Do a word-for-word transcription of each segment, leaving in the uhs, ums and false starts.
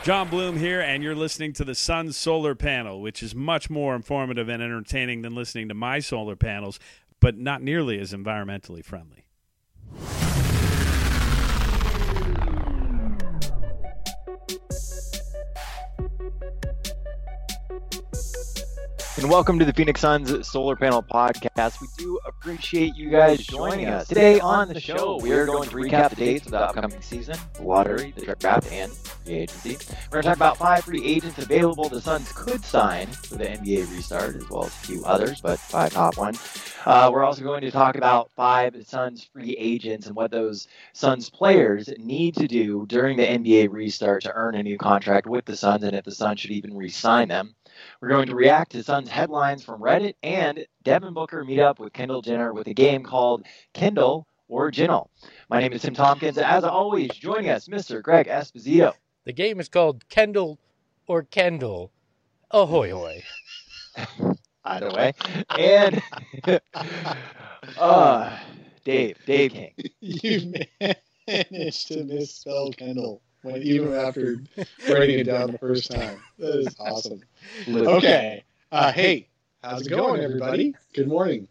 John Bloom here, and you're listening to the Sun's Solar Panel, which is much more informative and entertaining than listening to my solar panels, but not nearly as environmentally friendly. And welcome to the Phoenix Suns Solar Panel Podcast. We do appreciate you guys joining us. Today on the show, we are going to recap the dates of the upcoming season, the lottery, the draft, and free agency. We're going to talk about five free agents available the Suns could sign for the N B A restart, as well as a few others, but five top one. Uh, we're also going to talk about five Suns free agents and what those Suns players need to do during the N B A restart to earn a new contract with the Suns, and if the Suns should even re-sign them. We're going to react to Suns headlines from Reddit, and Devin Booker meet up with Kendall Jenner with a game called Kendall or Jinnle. My name is Tim Tompkins. As always, joining us, Mister Greg Esposito. The game is called Kendall or Kendall. Ahoy hoy. Either way. And uh, Dave, Dave King. You managed to misspell Kendall when even after writing it down the first time. That is awesome. Okay. Uh, hey, how's it going, everybody? Good morning.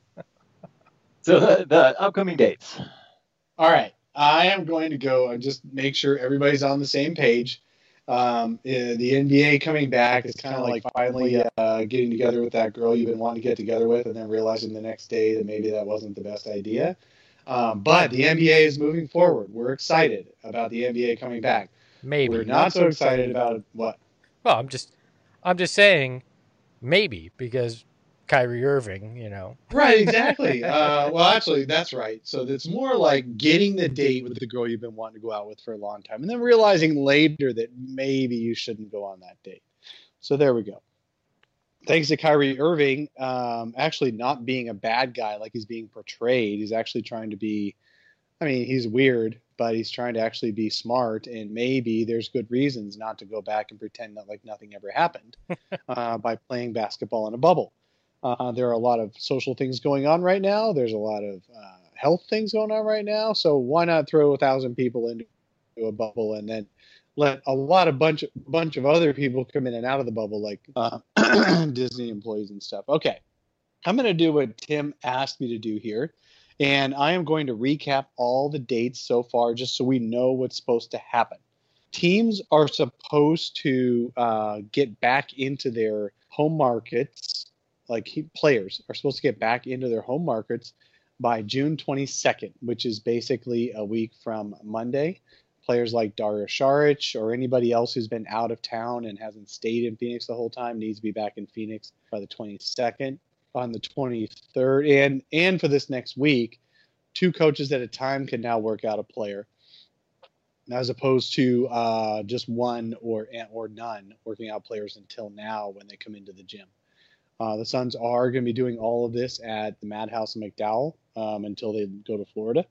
So the, the upcoming dates. All right. I am going to go and just make sure everybody's on the same page. Um, uh, the N B A coming back is kind of like finally uh, getting together with that girl you've been wanting to get together with and then realizing the next day that maybe that wasn't the best idea. Um, but the N B A is moving forward. We're excited about the N B A coming back. Maybe. We're not so excited about what? Well, I'm just I'm just saying maybe because Kyrie Irving, you know. Right, exactly. uh, well, actually, that's right. So it's more like getting the date with the girl you've been wanting to go out with for a long time and then realizing later that maybe you shouldn't go on that date. So there we go. Thanks to Kyrie Irving um, actually not being a bad guy like he's being portrayed. He's actually trying to be, I mean, he's weird, but he's trying to actually be smart, and maybe there's good reasons not to go back and pretend that like nothing ever happened uh, by playing basketball in a bubble. Uh, there are a lot of social things going on right now. There's a lot of uh, health things going on right now. So why not throw a thousand people into a bubble and then let a lot of bunch bunch of other people come in and out of the bubble, like uh, Disney employees and stuff. Okay, I'm going to do what Tim asked me to do here. And I am going to recap all the dates so far just so we know what's supposed to happen. Teams are supposed to uh, get back into their home markets, like he, players are supposed to get back into their home markets by June twenty-second, which is basically a week from Monday. Players like Dario Saric or anybody else who's been out of town and hasn't stayed in Phoenix the whole time needs to be back in Phoenix by the twenty-second. On the twenty-third, and and for this next week, two coaches at a time can now work out a player, as opposed to uh, just one or or none working out players until now when they come into the gym. Uh, the Suns are going to be doing all of this at the Madhouse in McDowell um, until they go to Florida,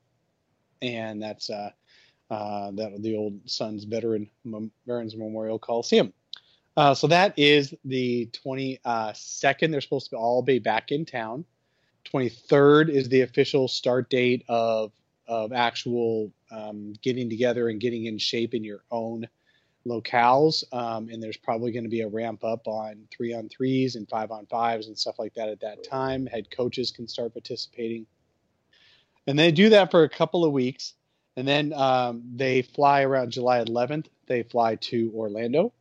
and that's uh, uh, that the old Suns veteran Veterans Memorial Coliseum. Uh, so that is the twenty-second. They're supposed to all be back in town. twenty-third is the official start date of of actual um, getting together and getting in shape in your own locales. Um, and there's probably going to be a ramp up on three on threes and five on fives and stuff like that at that time. Head coaches can start participating. And they do that for a couple of weeks. And then um, they fly around July eleventh. They fly to Orlando.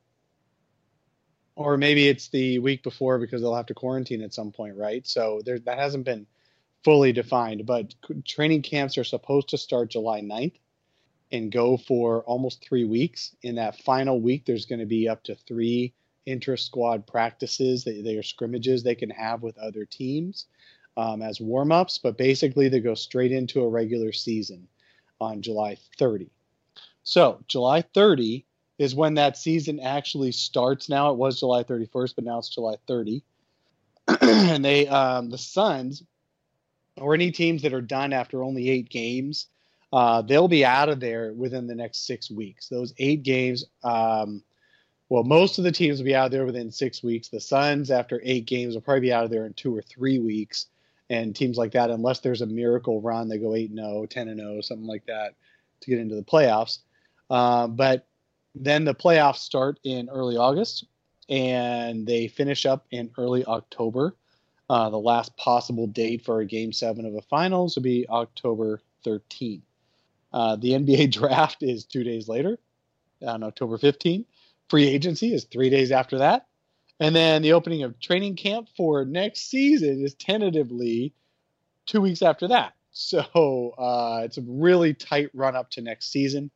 Or maybe it's the week before because they'll have to quarantine at some point, right? So there, that hasn't been fully defined. But training camps are supposed to start July ninth and go for almost three weeks. In that final week, there's going to be up to three intra-squad practices. They, they are scrimmages they can have with other teams um, as warm-ups. But basically, they go straight into a regular season on July thirtieth. So July thirtieth is when that season actually starts now. It was July thirty-first, but now it's July thirtieth. And they, um, the Suns, or any teams that are done after only eight games, uh, they'll be out of there within the next six weeks. Those eight games, um, well, most of the teams will be out there within six weeks. The Suns, after eight games, will probably be out of there in two or three weeks. And teams like that, unless there's a miracle run, they go eight and oh, ten and oh, something like that to get into the playoffs. Uh, but then the playoffs start in early August, and they finish up in early October. Uh, the last possible date for a Game seven of the finals would be October thirteenth. Uh, the N B A draft is two days later, on October fifteenth. Free agency is three days after that. And then the opening of training camp for next season is tentatively two weeks after that. So uh, it's a really tight run up to next season.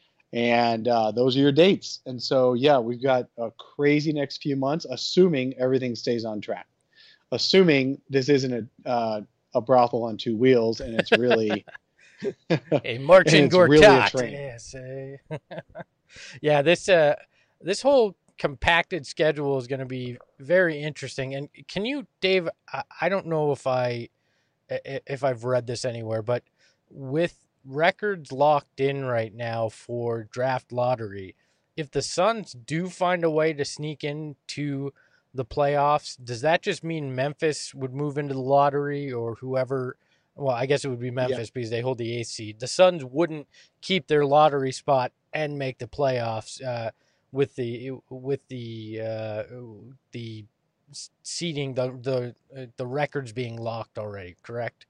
And uh, those are your dates. And so, yeah, we've got a crazy next few months, assuming everything stays on track. Assuming this isn't a, uh, a brothel on two wheels and it's really... a marching it's really a Gortat. train. Yes, eh. Yeah, this uh, this whole compacted schedule is going to be very interesting. And can you, Dave? I, I don't know if I if I've read this anywhere, but with records locked in right now for draft lottery, if the Suns do find a way to sneak into the playoffs, does that just mean Memphis would move into the lottery, or whoever? Well, I guess it would be Memphis yeah. because they hold the eighth seed. The Suns wouldn't keep their lottery spot and make the playoffs uh, with the with the uh, the seeding the the uh, the records being locked already. Correct.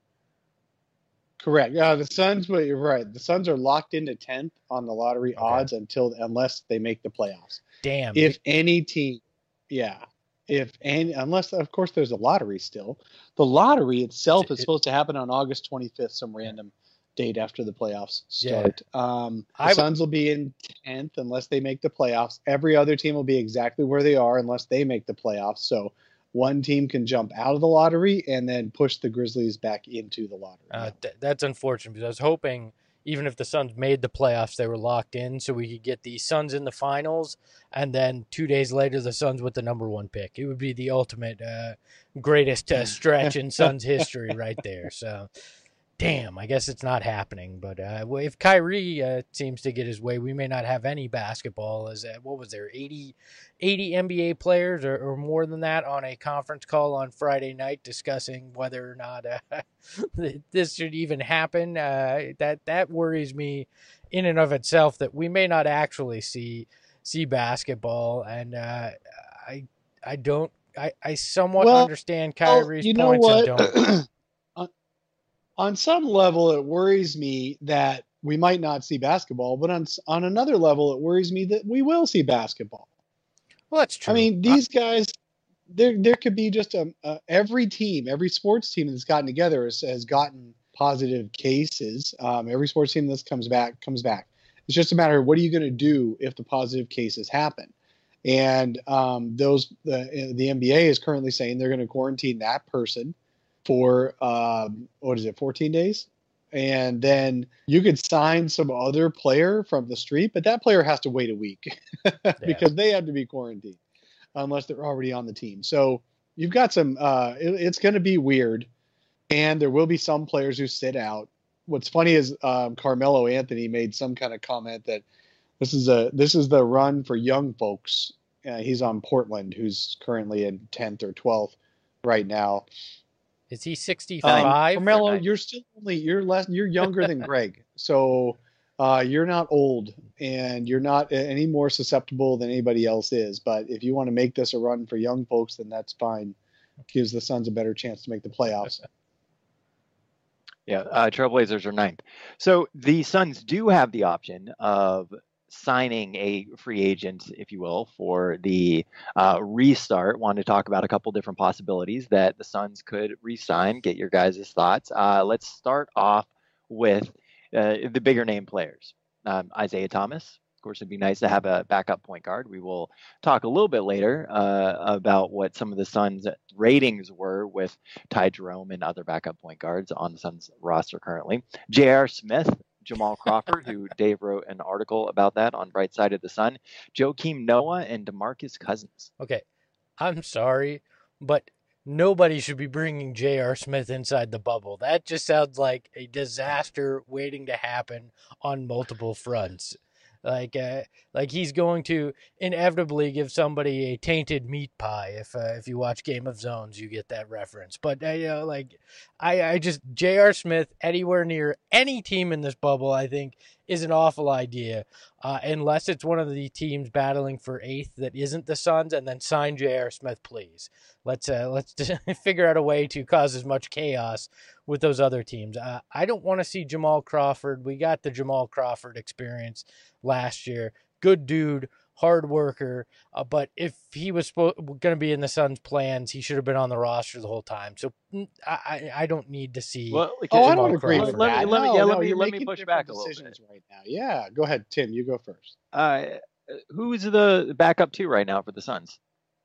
Correct. Yeah, the Suns. But you're right. The Suns are locked into tenth on the lottery okay. odds until unless they make the playoffs. Damn. If any team, yeah. If and unless of course there's a lottery still, the lottery itself is supposed to happen on August twenty-fifth, some random date after the playoffs start. Yeah. Um, the I, Suns will be in tenth unless they make the playoffs. Every other team will be exactly where they are unless they make the playoffs. So one team can jump out of the lottery and then push the Grizzlies back into the lottery. Uh, th- that's unfortunate because I was hoping even if the Suns made the playoffs, they were locked in so we could get the Suns in the finals, and then two days later, the Suns with the number one pick. It would be the ultimate uh, greatest uh, stretch in Suns history right there. So, damn, I guess it's not happening. But uh, if Kyrie uh, seems to get his way, we may not have any basketball. As uh, what was there, eighty, eighty N B A players or, or more than that on a conference call on Friday night discussing whether or not uh, this should even happen. Uh, that that worries me in and of itself that we may not actually see see basketball. And uh, I I don't I, I somewhat well, understand Kyrie's well, you know points what? and don't. On some level, it worries me that we might not see basketball, but on on another level, it worries me that we will see basketball. Well, that's true. I mean, these guys, there there could be just a, a every team, every sports team that's gotten together has, has gotten positive cases. Um, every sports team that comes back comes back. It's just a matter of what are you going to do if the positive cases happen. And um, those the the N B A is currently saying they're going to quarantine that person for um, what is it, fourteen days? And then you could sign some other player from the street, but that player has to wait a week because yeah. they have to be quarantined unless they're already on the team. So you've got some, uh, it, it's going to be weird. And there will be some players who sit out. What's funny is um, Carmelo Anthony made some kind of comment that this is a, this is the run for young folks. Uh, he's on Portland, who's currently in tenth or twelfth right now. Is he sixty-five? Um, Carmelo, you're still only you're less you're younger than Greg, so uh, you're not old, and you're not any more susceptible than anybody else is. But if you want to make this a run for young folks, then that's fine. Gives the Suns a better chance to make the playoffs. Yeah, uh, Trailblazers are ninth. So the Suns do have the option of signing a free agent, if you will, for the uh, restart. Want to talk about a couple different possibilities that the Suns could re-sign. Get your guys' thoughts. Uh, let's start off with uh, the bigger name players. Um, Isaiah Thomas. Of course, it'd be nice to have a backup point guard. We will talk a little bit later uh, about what some of the Suns' ratings were with Ty Jerome and other backup point guards on the Suns roster currently. J R. Smith, Jamal Crawford, who Dave wrote an article about that on Bright Side of the Sun, Joakim Noah, and DeMarcus Cousins. Okay, I'm sorry, but nobody should be bringing J R. Smith inside the bubble. That just sounds like a disaster waiting to happen on multiple fronts. Like, uh, like he's going to inevitably give somebody a tainted meat pie. If uh, if you watch Game of Zones, you get that reference. But uh, you know, like, I, I just J R. Smith anywhere near any team in this bubble, I think, is an awful idea. Uh, unless it's one of the teams battling for eighth that isn't the Suns, and then sign J R. Smith, please. Let's uh, let's figure out a way to cause as much chaos with those other teams. Uh, I don't want to see Jamal Crawford. We got the Jamal Crawford experience last year. Good dude, hard worker. Uh, but if he was spo- going to be in the Suns' plans, he should have been on the roster the whole time. So I, I, I don't need to see. Well, like, Oh, I Jamal don't agree Crawford. with Let me- that. let me- no, yeah, let no, me- you're let me making push different back a little decisions right now. Yeah, go ahead, Tim. You go first. Uh, who's the backup two right now for the Suns?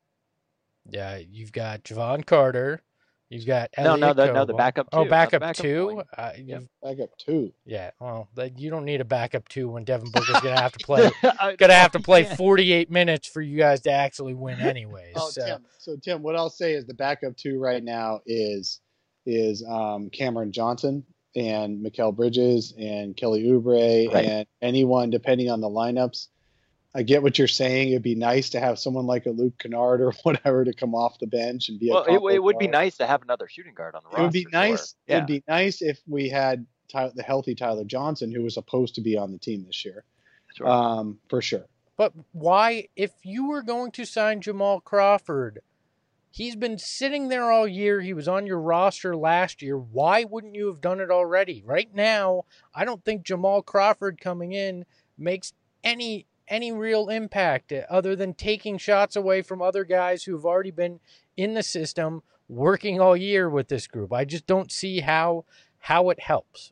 Yeah, you've got Javon Carter. You've got No, Elliot no, the- no, Kobo. the backup Oh, two, not the backup, backup two. point. Uh, Yep. you've- Back up two. Yeah, well, like, you don't need a backup two when Devin Booker's gonna have to play. I- Gonna have to play yeah. forty-eight minutes for you guys to actually win, anyways. Oh, so. Tim. So Tim, what I'll say is the backup two right now is is um, Cameron Johnson and Mikal Bridges and Kelly Oubre Right. and anyone depending on the lineups. I get what you're saying. It'd be nice to have someone like a Luke Kennard or whatever to come off the bench and be Well, a it, combo it would be guard. nice to have another shooting guard on the roster. It would be sure. nice. Yeah. It'd be nice if we had Ty- the healthy Tyler Johnson, who was supposed to be on the team this year, Sure. um, for sure. But why, if you were going to sign Jamal Crawford, he's been sitting there all year. He was on your roster last year. Why wouldn't you have done it already? Right now, I don't think Jamal Crawford coming in makes any any real impact other than taking shots away from other guys who have already been in the system working all year with this group. I just don't see how how it helps.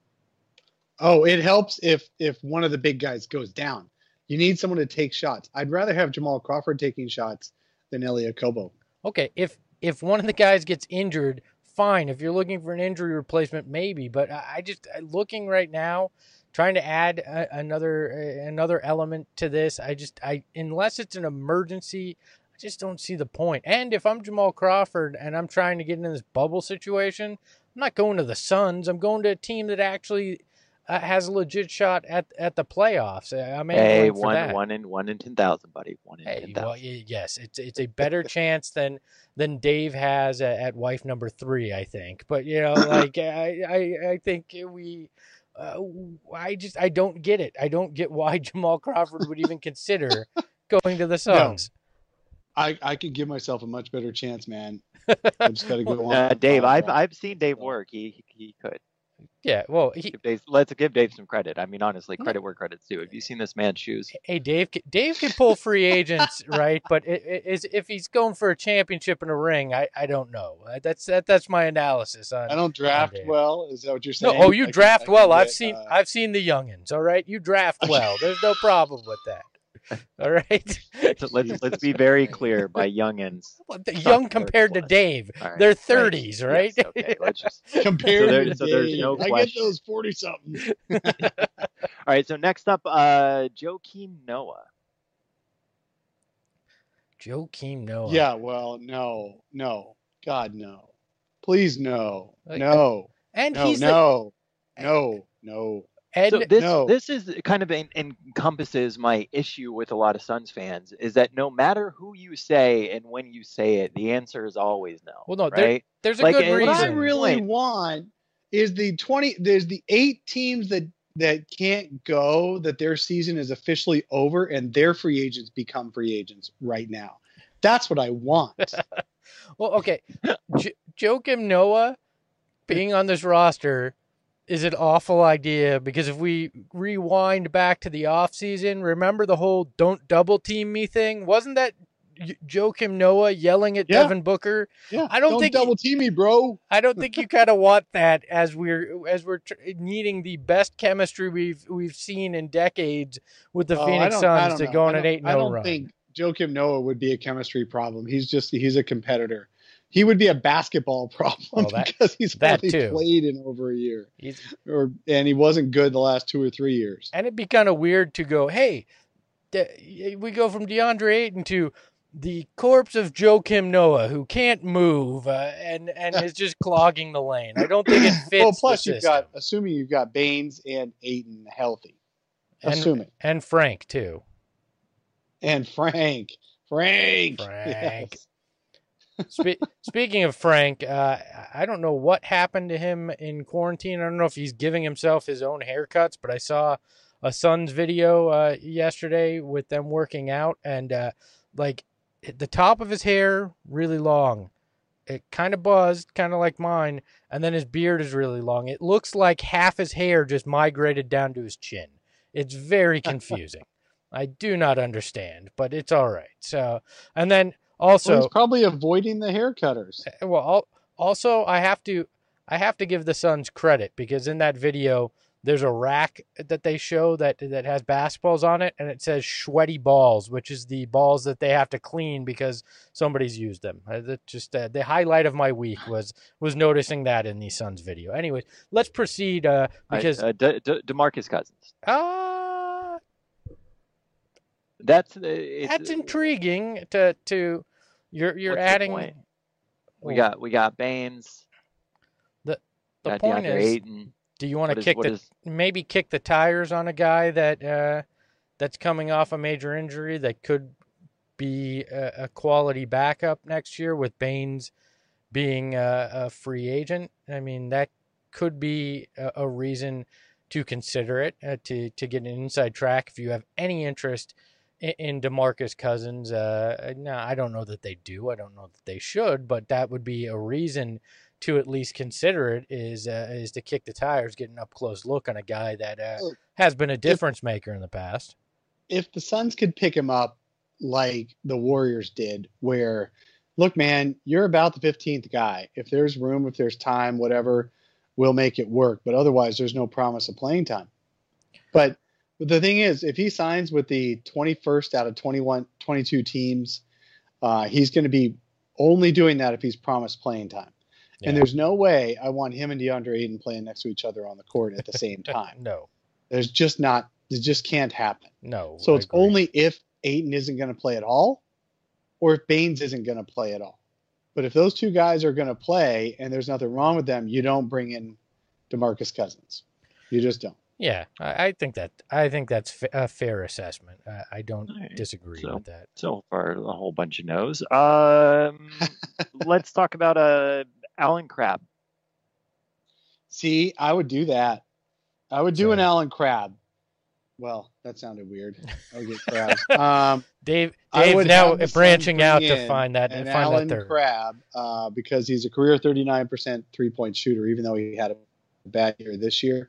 Oh, it helps if if one of the big guys goes down. You need someone to take shots. I'd rather have Jamal Crawford taking shots than Elliot Kobo. Okay, if if one of the guys gets injured, fine. If you're looking for an injury replacement, maybe. But I I just looking right now, trying to add a, another uh, another element to this. I just I unless it's an emergency, I just don't see the point. And if I'm Jamal Crawford and I'm trying to get into this bubble situation, I'm not going to the Suns. I'm going to a team that actually uh, has a legit shot at at the playoffs. Uh, I'm Hey, angling for one, that. one in one in ten thousand, buddy. One in Hey, ten well, thousand. y- yes, it's it's a better chance than than Dave has at, at wife number three, I think. But you know, like I I, I think we, uh, I just I don't get it. I don't get why Jamal Crawford would even consider going to the Suns. I, I could give myself a much better chance, man. I just got to go on. Uh, Dave, I've contract. I've seen Dave work. He he could. Yeah, well, he, Give Dave, let's give Dave some credit. I mean, honestly, No. credit where credit's due. Have you seen this man's shoes? hey Dave, ca- Dave can pull free agents, right? But it, it, is if he's going for a championship and a ring, I, I don't know. Uh, That's that that's my analysis on. I don't draft Dave. well. Is that what you're No, saying? oh, you I can- draft I can well. I've get, seen uh, I've seen the youngins. All right, you draft well. There's no problem with that. All right, So let's let's be very clear. By youngins, Well, the young compared to plus. Dave, All right, they're right. thirties, right? Yes, okay, let's just. compared So there- to so there's Dave, no I get question. those forty something. All right. So next up, uh, Joakim Noah. Joakim Noah. Yeah, well, no, no, God, no, please, no, Like- no, and no, he's no, no, no. the and So this no. this is kind of en- encompasses my issue with a lot of Suns fans is that no matter who you say and when you say it, the answer is always no. Well, no, there- right? there's a like, good and- What I reason. really Point. want is the twenty. There's the eight teams that that can't go. That their season is officially over and their free agents become free agents right now. That's what I want. Well, okay, J- Joakim Noah being on this roster is an awful idea because if we rewind back to the offseason, remember the whole "don't double team me" thing? Wasn't that Y- Joakim Noah yelling at Yeah. Devin Booker? Yeah, I don't think- double team me, bro. I don't think you kind of want that as we're as we're tr- needing the best chemistry we've we've seen in decades with the Oh, I Phoenix don't- I Suns don't to know. go on I an don't- eight I no don't run. think Joakim Noah would be a chemistry problem. He's just he's a competitor. He would be a basketball problem Well, that- because he's that only too. played in over a year, He's, or and he wasn't good the last two or three years. and it'd be kind of weird to go, hey, de- we go from DeAndre Ayton to the corpse of Joakim Noah, who can't move uh, and and is just clogging the lane. I don't think it fits. Well, plus the you've system. got assuming you've got Baines and Ayton healthy. and, assuming. And Frank, too. And Frank. Frank. Frank. Yes. Spe- speaking of Frank, uh, I don't know what happened to him in quarantine. I don't know if he's giving himself his own haircuts, but I saw a Suns video uh, yesterday with them working out, and uh, like the top of his hair really long. It kind of buzzed, kind of like mine, and then his beard is really long. It looks like half his hair just migrated down to his chin. It's very confusing. I do not understand, but it's all right. So, and then also, well, he's probably avoiding the hair cutters. Well, also I have to, I have to give the Suns credit because in that video there's a rack that they show that that has basketballs on it, and it says sweaty balls, which is the balls that they have to clean because somebody's used them. Uh, that just uh, the highlight of my week was was noticing that in the Suns video. Anyways, let's proceed uh, because I, uh, De- De- DeMarcus Cousins. Uh, that's uh, it's, that's intriguing. To to you're you're what's the adding. point? We got we got Baines. The the got point DeAndre is. Ayton. Do you want What to is- kick what the is- maybe kick the tires on a guy that uh, that's coming off a major injury that could be a, a quality backup next year with Baines being a, a free agent? I mean, that could be a, a reason to consider it uh, to to get an inside track if you have any interest in, in DeMarcus Cousins. Uh, no, I don't know that they do. I don't know that they should, but that would be a reason to at least consider it is uh, is to kick the tires, get an up close look on a guy that uh, has been a difference maker in the past. If the Suns could pick him up like the Warriors did, where, look, man, you're about the fifteenth guy. If there's room, if there's time, whatever, we'll make it work. But otherwise, there's no promise of playing time. But the thing is, if he signs with the twenty-first out of twenty-one, twenty-two teams, uh, he's going to be only doing that if he's promised playing time. Yeah. And there's no way I want him and DeAndre Ayton playing next to each other on the court at the same time. No, There's just not, it just can't happen. no. So I it's agree. only if Ayton isn't going to play at all or if Baines isn't going to play at all. But if those two guys are going to play and there's nothing wrong with them, you don't bring in DeMarcus Cousins. You just don't. Yeah, I, I think that I think that's fa- a fair assessment. Uh, I don't All right, disagree so- with that. So far, a whole bunch of no's. Um, let's talk about uh, Alan Crabb. See, I would do that. I would do So- an Allen Crabbe. Well, that sounded weird. I would get crabs. Um, Dave, I Dave would now have the Suns branching bring out to in find that an find Allen that third. Crabbe uh, because he's a career thirty-nine percent three-point shooter, even though he had a bad year this year.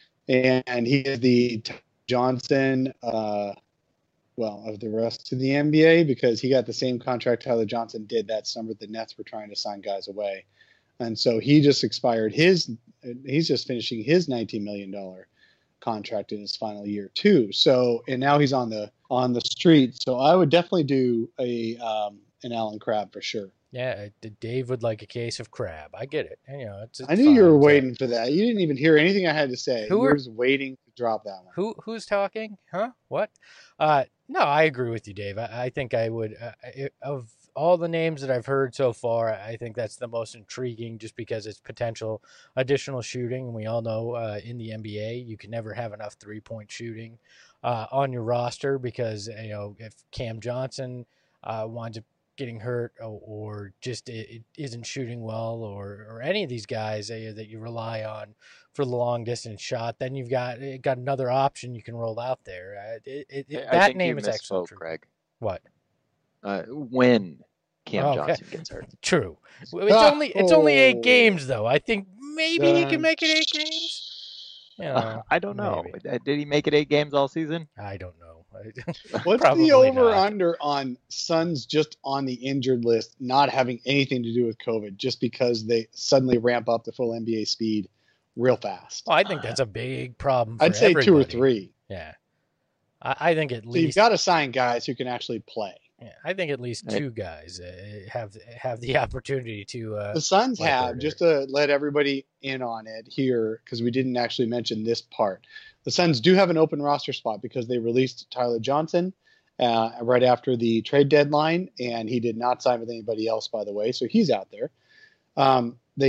And he is the Johnson, uh, well, of the rest of the N B A because he got the same contract Tyler Johnson did that summer. The Nets were trying to sign guys away. And so he just expired his, he's just finishing his nineteen million dollars contract in his final year too. So, and now he's on the, on the street. So I would definitely do a, um, an Allen Crabbe for sure. Yeah, uh, Dave would like a case of crab. I get it. You know, it's, it's I knew you fine. were So- waiting for that. You didn't even hear anything I had to say. Who you were are- just waiting to drop that one. Who who's talking? Huh? What? Uh, no, I agree with you, Dave. I, I think I would uh, I- of all the names that I've heard so far. I think that's the most intriguing, just because it's potential additional shooting. And we all know uh, in the N B A, you can never have enough three point shooting uh, on your roster because you know if Cam Johnson uh, winds up getting hurt or, or just it, it isn't shooting well, or or any of these guys uh, that you rely on for the long distance shot, then you've got it got another option you can roll out there. Uh, it, it, it- I that think name you is actually misspoke, true. Greg. What? Uh, when Cam Oh, okay. Johnson gets hurt. True. It's only it's only eight Oh. games though. I think maybe he Dun. can make it eight games. You know, I don't know. maybe. Uh, Did he make it eight games all season? I don't know. What's Probably the over not. under on Suns just on the injured list not having anything to do with COVID, just because they suddenly ramp up the full N B A speed real fast? Well, I think that's a big problem. For I'd say two or everybody. three. Yeah, I, I think at So you've least. got to sign guys who can actually play. Yeah, I think at least Right. two guys uh, have have the opportunity to. Uh, The Suns like have, order. just to let everybody in on it here, because we didn't actually mention this part. The Suns do have an open roster spot because they released Tyler Johnson uh, right after the trade deadline, and he did not sign with anybody else, by the way, so he's out there. Um, they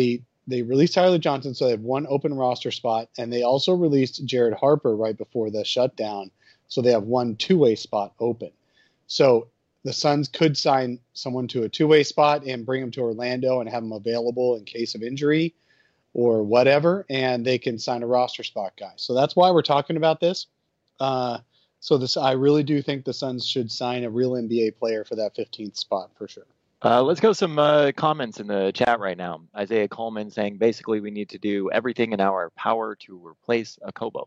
they released Tyler Johnson, so they have one open roster spot, and they also released Jared Harper right before the shutdown, so they have one two-way spot open. So the Suns could sign someone to a two-way spot and bring them to Orlando and have them available in case of injury or whatever, and they can sign a roster spot guy. So that's why we're talking about this. Uh, so this, I really do think the Suns should sign a real N B A player for that fifteenth spot for sure. Uh, let's go some uh, comments in the chat right now. Isaiah Coleman saying basically we need to do everything in our power to replace Okobo.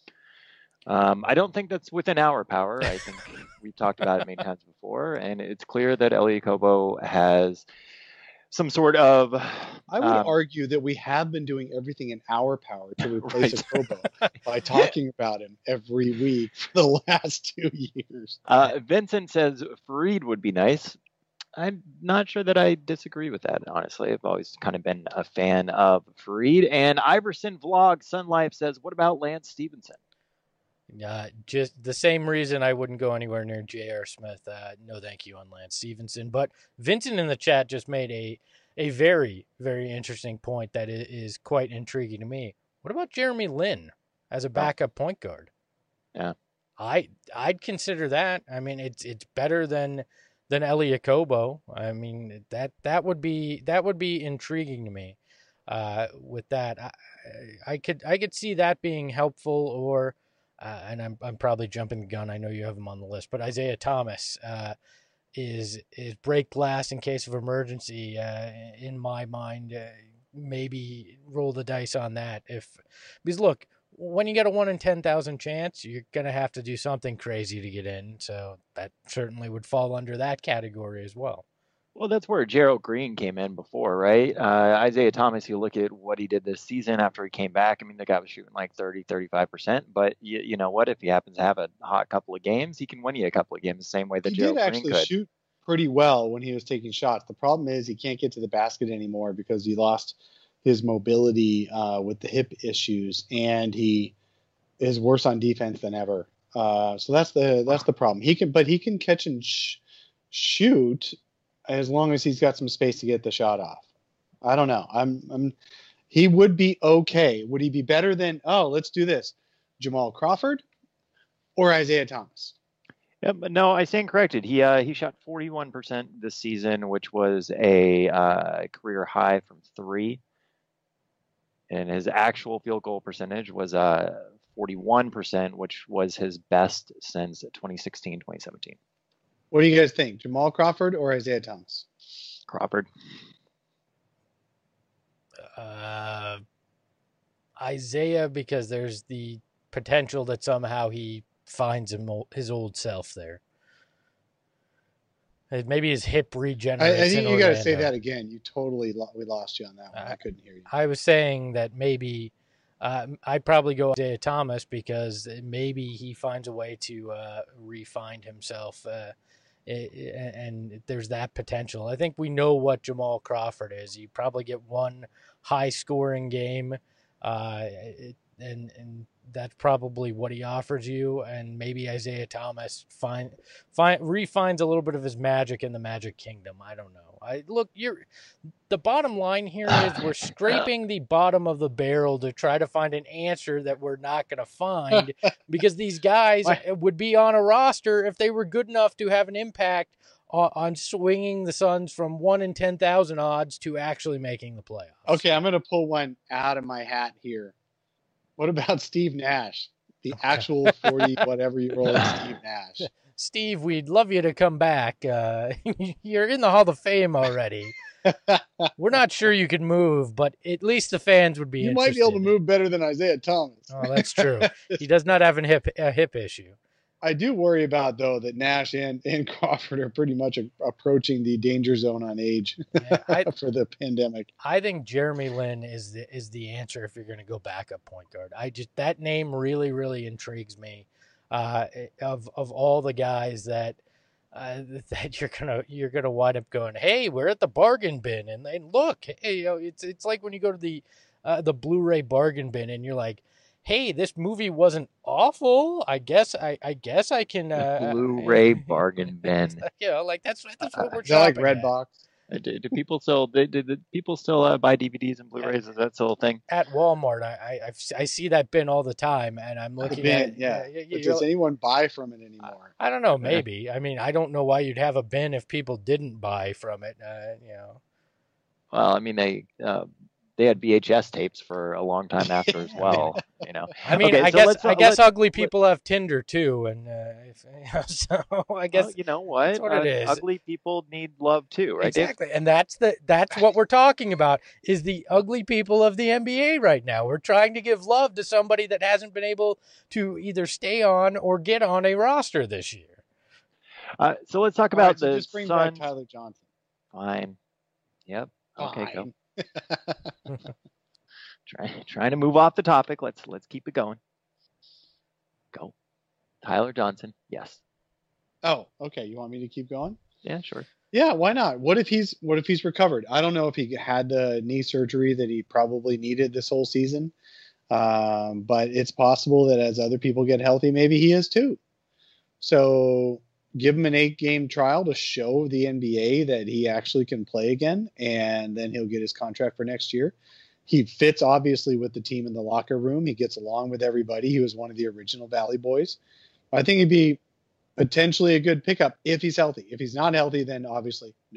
Um, I don't think that's within our power. I think we've talked about it many times before, and it's clear that Elie Okobo has some sort of... I would um, argue that we have been doing everything in our power to replace right. Okobo by talking about him every week for the last two years. Uh, Vincent says Faried would be nice. I'm not sure that I disagree with that, honestly. I've always kind of been a fan of Faried. And Iverson Vlog Sun Life says, what about Lance Stevenson? Uh, just the same reason I wouldn't go anywhere near J R. Smith. Uh, no thank you on Lance Stevenson. But Vincent in the chat just made a, a very, very interesting point that is quite intriguing to me. What about Jeremy Lin as a backup point guard? Yeah. I, I'd consider that. I mean, it's it's better than... than Elie Okobo. I mean, that that would be that would be intriguing to me. Uh, with that, I, I could I could see that being helpful. Or, uh, and I'm I'm probably jumping the gun. I know you have him on the list, but Isaiah Thomas uh, is is break glass in case of emergency. Uh, in my mind, uh, maybe roll the dice on that. If because look. When you get a one in ten thousand chance, you're going to have to do something crazy to get in. So that certainly would fall under that category as well. Well, that's where Gerald Green came in before, right? Uh, Isaiah Thomas, you look at what he did this season after he came back. I mean, the guy was shooting like thirty, thirty-five percent. But you, you know what? If he happens to have a hot couple of games, he can win you a couple of games the same way that he Gerald did Green actually could. shoot pretty well when he was taking shots. The problem is he can't get to the basket anymore because he lost his mobility uh, with the hip issues, and he is worse on defense than ever. Uh, so that's the that's the problem. He can, but he can catch and sh- shoot as long as he's got some space to get the shot off. I don't know. I'm, I'm he would be okay. Would he be better than? Oh, let's do this: Jamal Crawford or Isaiah Thomas? Yeah, but no, I stand corrected. He uh, he shot forty-one percent this season, which was a uh, career high from three. And his actual field goal percentage was uh, forty-one percent, which was his best since twenty sixteen, twenty seventeen. What do you guys think? Jamal Crawford or Isaiah Thomas? Crawford. Uh, Isaiah, because there's the potential that somehow he finds him, his old self there. Maybe his hip regenerates. I, I think in you got to Orlando. say that again. You totally lo- we lost you on that one. Uh, I couldn't hear you. I was saying that maybe uh, I'd probably go Isaiah Thomas because maybe he finds a way to uh, re-find himself, uh, and there's that potential. I think we know what Jamal Crawford is. You probably get one high-scoring game, uh, and and that's probably what he offers you. And maybe Isaiah Thomas find find refines a little bit of his magic in the Magic Kingdom. I don't know. I look, you're the bottom line here is we're scraping the bottom of the barrel to try to find an answer that we're not going to find because these guys would be on a roster if they were good enough to have an impact on, on swinging the Suns from one in ten thousand odds to actually making the playoffs. Okay, I'm going to pull one out of my hat here. What about Steve Nash, the actual forty whatever year old Steve Nash? Steve, we'd love you to come back. Uh, you're in the Hall of Fame already. We're not sure you can move, but at least the fans would be you interested. might be able to move better than Isaiah Thomas. Oh, that's true. He does not have a hip, a hip issue. I do worry about, though, that Nash and, and Crawford are pretty much a, approaching the danger zone on age yeah, I, for the pandemic. I think Jeremy Lin is the is the answer if you're going to go backup point guard. I just that name really, really intrigues me. Uh, of of all the guys that uh, that you're gonna you're gonna wind up going, hey, we're at the bargain bin, and then look, hey, you know, it's it's like when you go to the uh, the Blu-ray bargain bin, and you're like, hey, this movie wasn't awful. I guess I, I guess I can uh, Blu-ray bargain bin. You know, like that's that's what we're uh, like shopping Redbox. Do, do people still do, do, do people still uh, buy D V Ds and Blu-rays? Is that still a thing? At Walmart, I I, I've, I see that bin all the time, and I'm The looking bin, at yeah. you- But you're- does anyone buy from it anymore? I don't know, maybe. I mean, I don't know why you'd have a bin if people didn't buy from it. Uh, you know. Well, I mean, they uh, they had V H S tapes for a long time after as well. You know. I mean, Okay, I so guess let's, uh, I guess let's- ugly people have Tinder too, and uh, if, so I guess Well, you know what? that's what it Uh, is. Ugly people need love too, right? Dave? exactly, and that's the that's what we're talking about is the ugly people of the N B A right now. We're trying to give love to somebody that hasn't been able to either stay on or get on a roster this year. Uh, so let's talk All about right, so the just bring back Suns. Tyler Johnson. Fine. Yep. Okay, go. Fine. Try, trying to move off the topic. Let's let's keep it going. Go. Tyler Johnson. Yes. Oh, okay. You want me to keep going? Yeah, sure. Yeah, why not? What if he's what if he's recovered? I don't know if he had the knee surgery that he probably needed this whole season, um, but it's possible that as other people get healthy, maybe he is too. So give him an eight-game trial to show the N B A that he actually can play again, and then he'll get his contract for next year. He fits obviously with the team in the locker room. He gets along with everybody. He was one of the original Valley Boys. I think he'd be potentially a good pickup if he's healthy. If he's not healthy, then obviously no.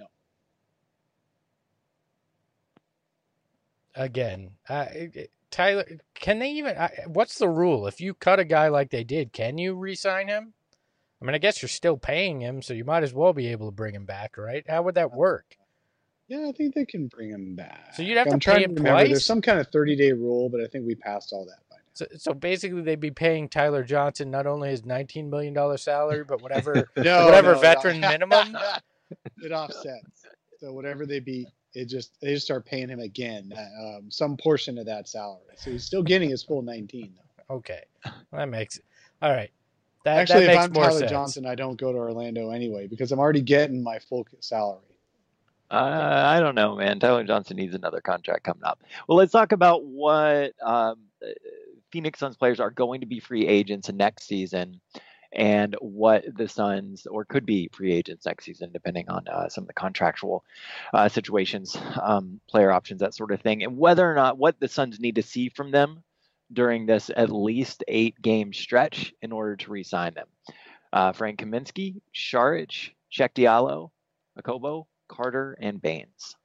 Again, uh, Tyler, can they even? Uh, what's the rule? If you cut a guy like they did, can you re-sign him? I mean, I guess you're still paying him, so you might as well be able to bring him back, right? How would that work? Yeah, I think they can bring him back. So you'd have to I'm pay trying him to remember. twice? There's some kind of thirty-day rule, but I think we passed all that by now. So, so basically, they'd be paying Tyler Johnson not only his nineteen million dollars salary, but whatever No, whatever no, veteran no. minimum. It offsets. So whatever they be, it just they just start paying him again, uh, um, some portion of that salary. So he's still getting his full nineteen though. Okay, well, that makes it all right. That, Actually, that if makes I'm more Tyler sense. Johnson, I don't go to Orlando anyway because I'm already getting my full salary. Uh, I don't know, man. Tyler Johnson needs another contract coming up. Well, let's talk about what um, Phoenix Suns players are going to be free agents next season, and what the Suns or could be free agents next season, depending on uh, some of the contractual uh, situations, um, player options, that sort of thing, and whether or not what the Suns need to see from them during this at least eight-game stretch in order to re-sign them. Uh, Frank Kaminsky, Šarić, Cheick Diallo, Okobo, Carter, and Baines.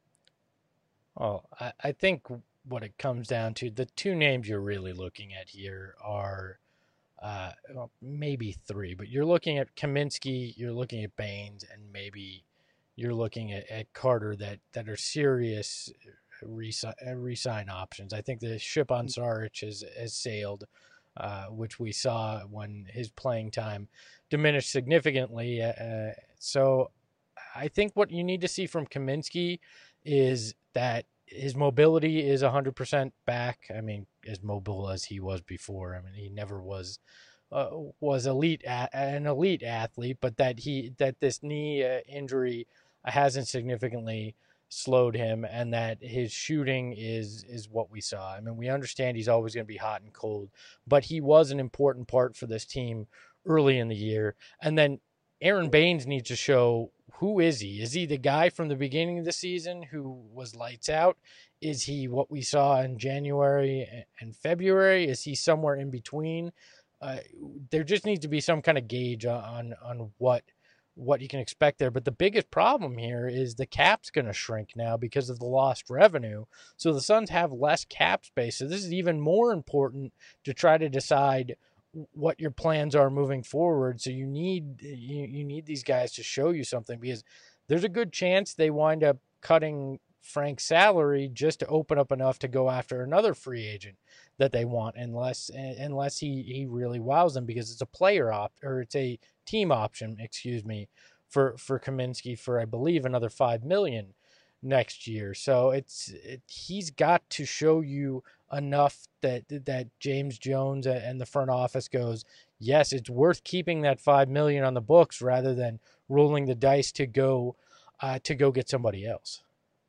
Oh, I, I think what it comes down to, the two names you're really looking at here are uh, well, maybe three, but you're looking at Kaminsky, you're looking at Baines, and maybe you're looking at, at Carter that, that are serious re-sign, re-sign options. I think the ship on Šarić has, has sailed, uh, which we saw when his playing time diminished significantly. Uh, so I think what you need to see from Kaminsky is that his mobility is one hundred percent back. I mean, as mobile as he was before. I mean, he never was uh, was elite a- an elite athlete, but that he that this knee uh, injury hasn't significantly slowed him, and that his shooting is is what we saw. I mean, we understand he's always going to be hot and cold, but he was an important part for this team early in the year. And then Aaron Baines needs to show, who is he? Is he the guy from the beginning of the season who was lights out? Is he what we saw in January and February? Is he somewhere in between? Uh, there just needs to be some kind of gauge on on what what you can expect there. But the biggest problem here is the cap's going to shrink now because of the lost revenue. So the Suns have less cap space. So this is even more important to try to decide what your plans are moving forward. So you need you, you need these guys to show you something, because there's a good chance they wind up cutting Frank's salary just to open up enough to go after another free agent that they want, unless unless he, he really wows them, because it's a player op or it's a team option, excuse me, for for Kaminsky for I believe another five million next year. So it's it, he's got to show you enough that that James Jones and the front office goes, yes, it's worth keeping that five million on the books rather than rolling the dice to go uh, to go get somebody else.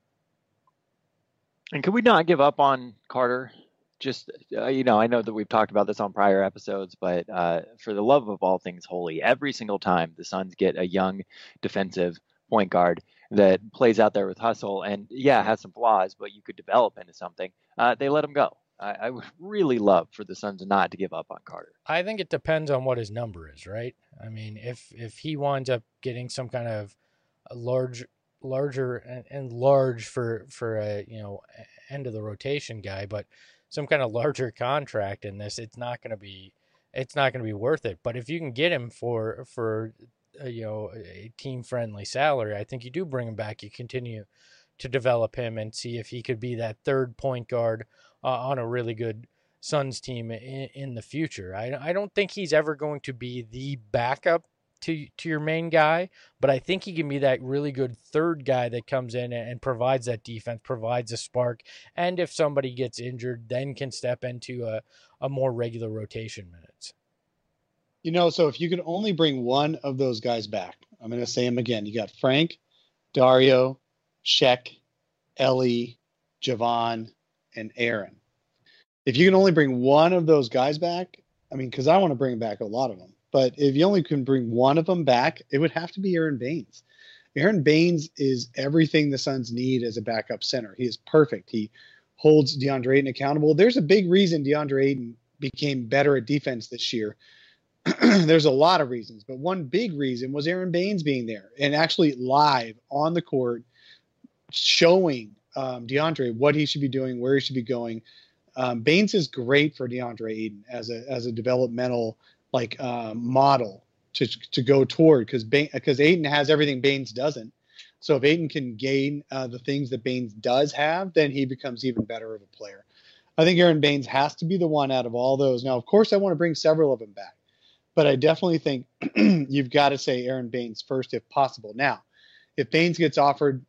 And could we not give up on Carter? Just, uh, you know, I know that we've talked about this on prior episodes, but uh, for the love of all things holy, every single time the Suns get a young defensive point guard that plays out there with hustle and, yeah, has some flaws, but you could develop into something. Uh, they let him go. I, I would really love for the Suns not to give up on Carter. I think it depends on what his number is, right? I mean, if if he winds up getting some kind of a large, larger and, and large for for a you know end of the rotation guy, but some kind of larger contract in this, it's not going to be it's not going to be worth it. But if you can get him for for uh, you know a team friendly salary, I think you do bring him back. You continue to develop him and see if he could be that third point guard uh, on a really good Suns team in, in the future. I, I don't think he's ever going to be the backup to to your main guy, but I think he can be that really good third guy that comes in and provides that defense, provides a spark, and if somebody gets injured, then can step into a, a more regular rotation minutes. You know, so if you could only bring one of those guys back, I'm going to say him again. You got Frank, Dario, Shek, Ellie, Javon, and Aaron. If you can only bring one of those guys back, I mean, because I want to bring back a lot of them, but if you only can bring one of them back, it would have to be Aaron Baines. Aaron Baines is everything the Suns need as a backup center. He is perfect. He holds DeAndre Ayton accountable. There's a big reason DeAndre Ayton became better at defense this year. There's a lot of reasons, but one big reason was Aaron Baines being there and actually live on the court, showing um, DeAndre what he should be doing, where he should be going. Um, Baines is great for DeAndre Ayton as a as a developmental like uh, model to to go toward, because because Ayton has everything Baines doesn't. So if Ayton can gain uh, the things that Baines does have, then he becomes even better of a player. I think Aaron Baines has to be the one out of all those. Now, of course, I want to bring several of them back, but I definitely think you've got to say Aaron Baines first if possible. Now, if Baines gets offered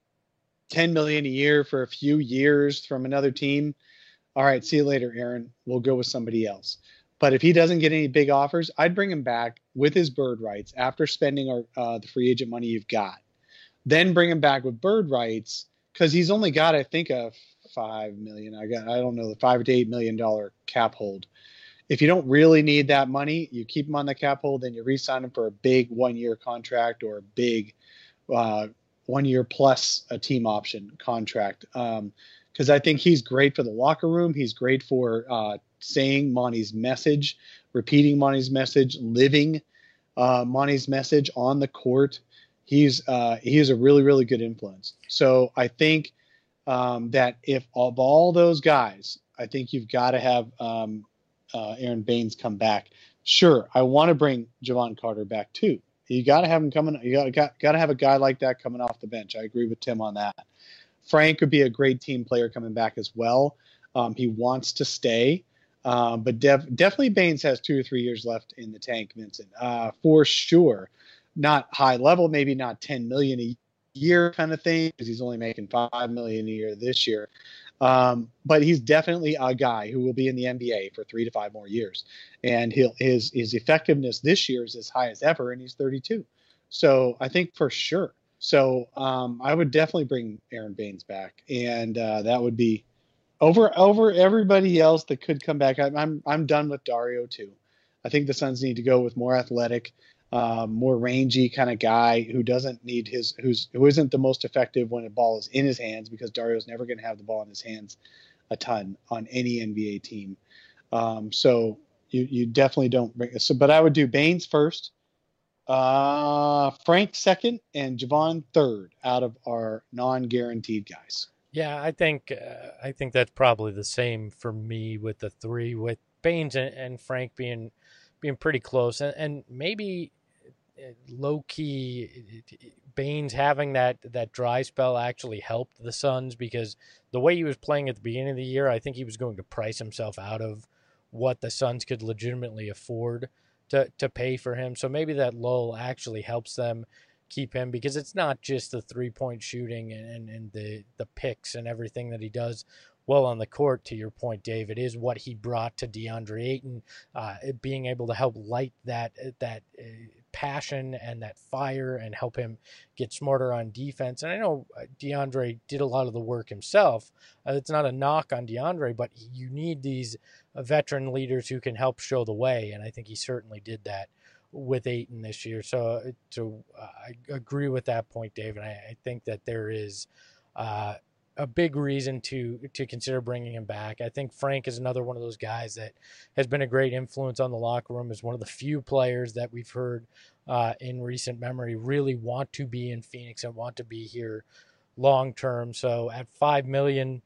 ten million dollars a year for a few years from another team, all right, see you later, Aaron. We'll go with somebody else. But if he doesn't get any big offers, I'd bring him back with his bird rights after spending our, uh, the free agent money you've got. Then bring him back with bird rights, because he's only got, I think, a five million. I got, I don't know, the five to eight million dollar cap hold. If you don't really need that money, you keep him on the cap hold, then you re-sign him for a big one-year contract or a big uh, one-year plus a team option contract. Um, because I think he's great for the locker room. He's great for uh, saying Monty's message, repeating Monty's message, living uh, Monty's message on the court. He's uh, he is a really, really good influence. So I think um, that if of all those guys, I think you've got to have um, uh, Aaron Baines come back. Sure, I want to bring Javon Carter back too. You got to have him coming. You got got got to have a guy like that coming off the bench. I agree with Tim on that. Frank would be a great team player coming back as well. Um, he wants to stay, um, but def- definitely Baines has two or three years left in the tank, Vincent, uh, for sure. Not high level, maybe not ten million a year kind of thing, because he's only making five million a year this year. Um, but he's definitely a guy who will be in the N B A for three to five more years, and he'll, his his effectiveness this year is as high as ever, and he's thirty-two. So I think for sure. So um, I would definitely bring Aaron Baines back, and uh, that would be over over everybody else that could come back. I'm I'm, I'm done with Dario too. I think the Suns need to go with more athletic, um, more rangy kind of guy who doesn't need his who's who isn't the most effective when the ball is in his hands, because Dario's never going to have the ball in his hands a ton on any N B A team. Um, so you you definitely don't bring. So, but I would do Baines first. Uh, Frank second, and Javon third out of our non-guaranteed guys. Yeah, I think uh, I think that's probably the same for me with the three, with Baines and, and Frank being being pretty close, and, and maybe low key Baines having that that dry spell actually helped the Suns, because the way he was playing at the beginning of the year, I think he was going to price himself out of what the Suns could legitimately afford to to pay for him. So maybe that lull actually helps them keep him, because it's not just the three-point shooting and, and, and the, the picks and everything that he does well on the court, to your point, Dave. It is what he brought to DeAndre Ayton, uh, being able to help light that that uh, passion and that fire and help him get smarter on defense. And I know DeAndre did a lot of the work himself. Uh, it's not a knock on DeAndre, but you need these uh, veteran leaders who can help show the way, and I think he certainly did that with Ayton this year. So, so I agree with that point, Dave, and I, I think that there is uh, a big reason to to consider bringing him back. I think Frank is another one of those guys that has been a great influence on the locker room. Is one of the few players that we've heard uh, in recent memory really want to be in Phoenix and want to be here long term. So at five million,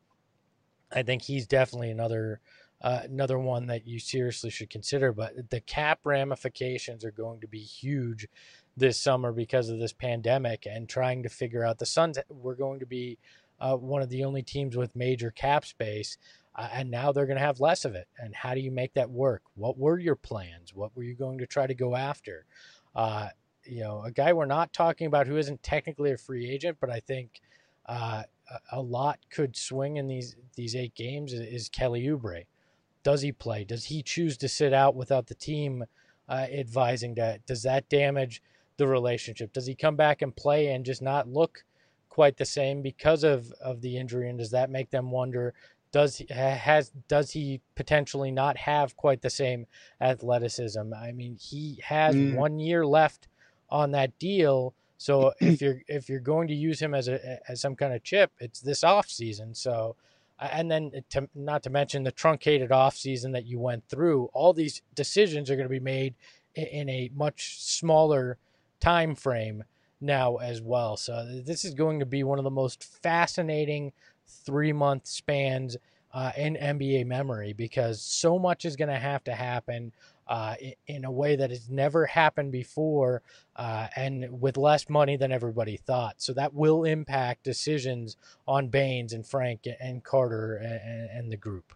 I think he's definitely another uh, another one that you seriously should consider. But the cap ramifications are going to be huge this summer because of this pandemic and trying to figure out. The Suns were going to be uh, one of the only teams with major cap space, uh, and now they're going to have less of it. And how do you make that work? What were your plans? What were you going to try to go after? Uh, you know, a guy we're not talking about who isn't technically a free agent, but I think uh, a lot could swing in these these eight games is, is Kelly Oubre. Does he play? Does he choose to sit out without the team uh, advising that? Does that damage the relationship? Does he come back and play and just not look quite the same because of, of the injury? And does that make them wonder, does he has does he potentially not have quite the same athleticism? I mean, he has mm. one year left on that deal. So if you're if you're going to use him as a as some kind of chip, it's this off season. So, and then to, not to mention the truncated off season that you went through, all these decisions are going to be made in, in a much smaller time frame now as well. So this is going to be one of the most fascinating three month spans uh, in N B A memory, because so much is going to have to happen uh, in, in a way that has never happened before, uh, and with less money than everybody thought. So that will impact decisions on Baines and Frank and Carter and, and the group.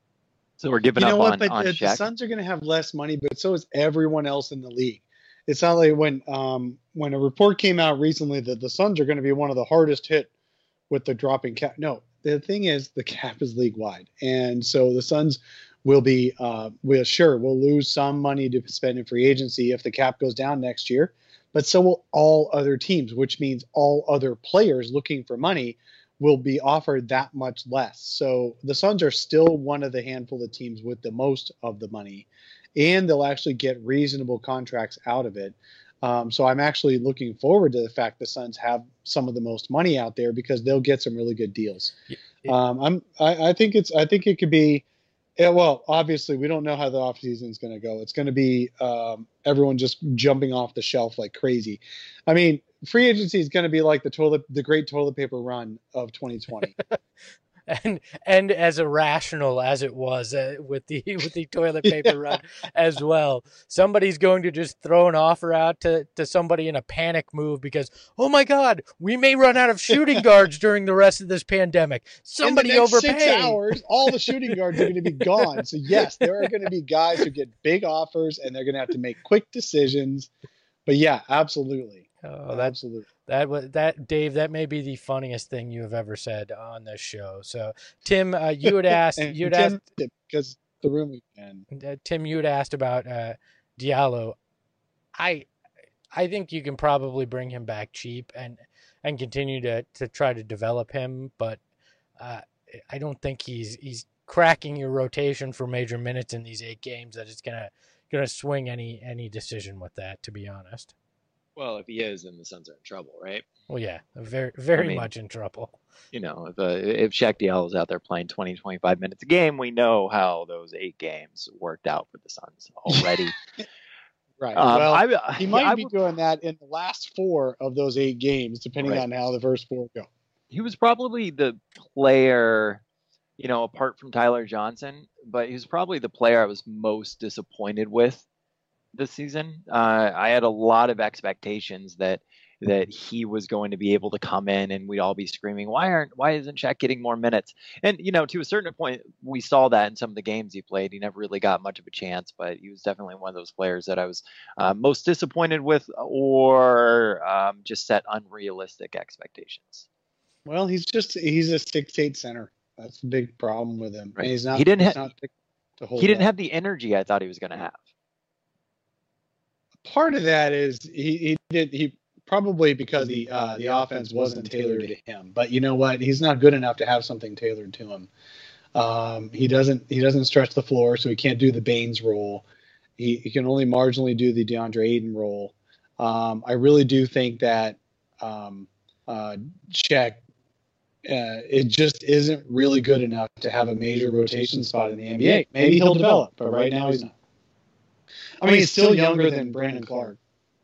So we're giving you know up what, on, but on the, the Suns are going to have less money, but so is everyone else in the league. It's not like when um, when a report came out recently that the Suns are going to be one of the hardest hit with the dropping cap. No, the thing is the cap is league wide, and so the Suns will be uh, will sure we'll lose some money to spend in free agency if the cap goes down next year, but so will all other teams, which means all other players looking for money will be offered that much less. So the Suns are still one of the handful of teams with the most of the money, and they'll actually get reasonable contracts out of it. Um, so I'm actually looking forward to the fact the Suns have some of the most money out there because they'll get some really good deals. Yeah. Um, I'm, I, I think it's, I think it could be, yeah, well, obviously we don't know how the offseason is going to go. It's going to be um, everyone just jumping off the shelf like crazy. I mean, free agency is going to be like the toilet, the great toilet paper run of twenty twenty. And and as irrational as it was uh, with the with the toilet paper run as well, somebody's going to just throw an offer out to, to somebody in a panic move because, oh my God, we may run out of shooting guards during the rest of this pandemic. Somebody in the next overpay. Six hours, all the shooting guards are going to be gone. So yes, there are going to be guys who get big offers and they're going to have to make quick decisions. But yeah, absolutely. Oh, that, absolutely. That was that, Dave. That may be the funniest thing you have ever said on this show. So, Tim, uh, you had asked, you had asked because the room again. Uh, Tim, you had asked about uh, Diallo. I, I think you can probably bring him back cheap and and continue to to try to develop him, but uh, I don't think he's he's cracking your rotation for major minutes in these eight games. That it's gonna gonna swing any any decision with that. To be honest. Well, if he is, then the Suns are in trouble, right? Well, yeah, very, very I mean, much in trouble. You know, if uh, if Shaq Diallo is out there playing twenty, twenty-five minutes a game, we know how those eight games worked out for the Suns already. Right. Um, well, I, he might I, be I, doing that in the last four of those eight games, depending right. on how the first four go. He was probably the player, you know, apart from Tyler Johnson, but he was probably the player I was most disappointed with this season. Uh, I had a lot of expectations that that he was going to be able to come in and we'd all be screaming, why aren't why isn't Shaq getting more minutes? And you know, to a certain point, we saw that in some of the games he played. He never really got much of a chance, but he was definitely one of those players that I was uh, most disappointed with, or um, just set unrealistic expectations. Well, he's just he's a six eight center. That's the big problem with him. Right. And he's not. He didn't. He's Ha- not to hold he didn't up. have the energy I thought he was going to have. Part of that is he, he did he probably because the uh, the offense wasn't tailored to him. But you know what? He's not good enough to have something tailored to him. Um, he doesn't he doesn't stretch the floor, so he can't do the Baines role. He, he can only marginally do the DeAndre Ayton role. Um, I really do think that um, uh, Cech, uh, it just isn't really good enough to have a major rotation spot in the N B A. Maybe he'll develop, but right now he's not. I mean, he's still younger than Brandon Clark.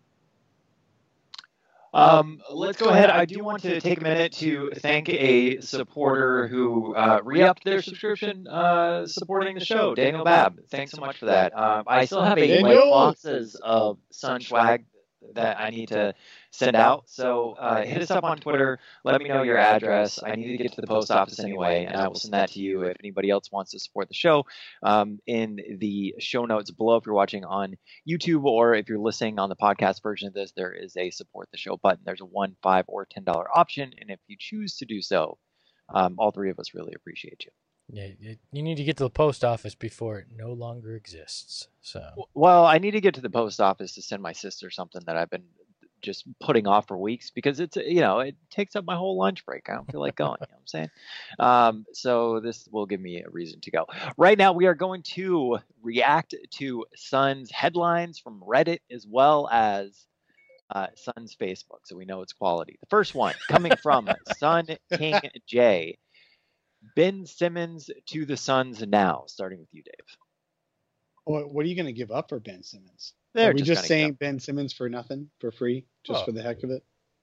Um, let's go ahead. I do want to take a minute to thank a supporter who uh, re-upped their subscription uh, supporting the show, Daniel Babb. Thanks so much for that. Um, I still have eight white boxes of Sun swag that I need to send out. So uh, hit us up on Twitter. Let me know your address. I need to get to the post office anyway, and I will send that to you if anybody else wants to support the show. Um, in the show notes below, if you're watching on YouTube or if you're listening on the podcast version of this, there is a support the show button. There's a one, five, or ten dollar option, and if you choose to do so, um, all three of us really appreciate you. Yeah, you need to get to the post office before it no longer exists. So, well, I need to get to the post office to send my sister something that I've been just putting off for weeks because it's, you know, it takes up my whole lunch break. I don't feel like going, you know what I'm saying? Um, so this will give me a reason to go. Right now, we are going to react to Suns headlines from Reddit as well as uh, Suns Facebook, so we know it's quality. The first one coming from Sun King J. Ben Simmons to the Suns now, starting with you, Dave. What, what are you going to give up for Ben Simmons? They're are we just, just saying go. Ben Simmons for nothing, for free, just oh. for the heck of it?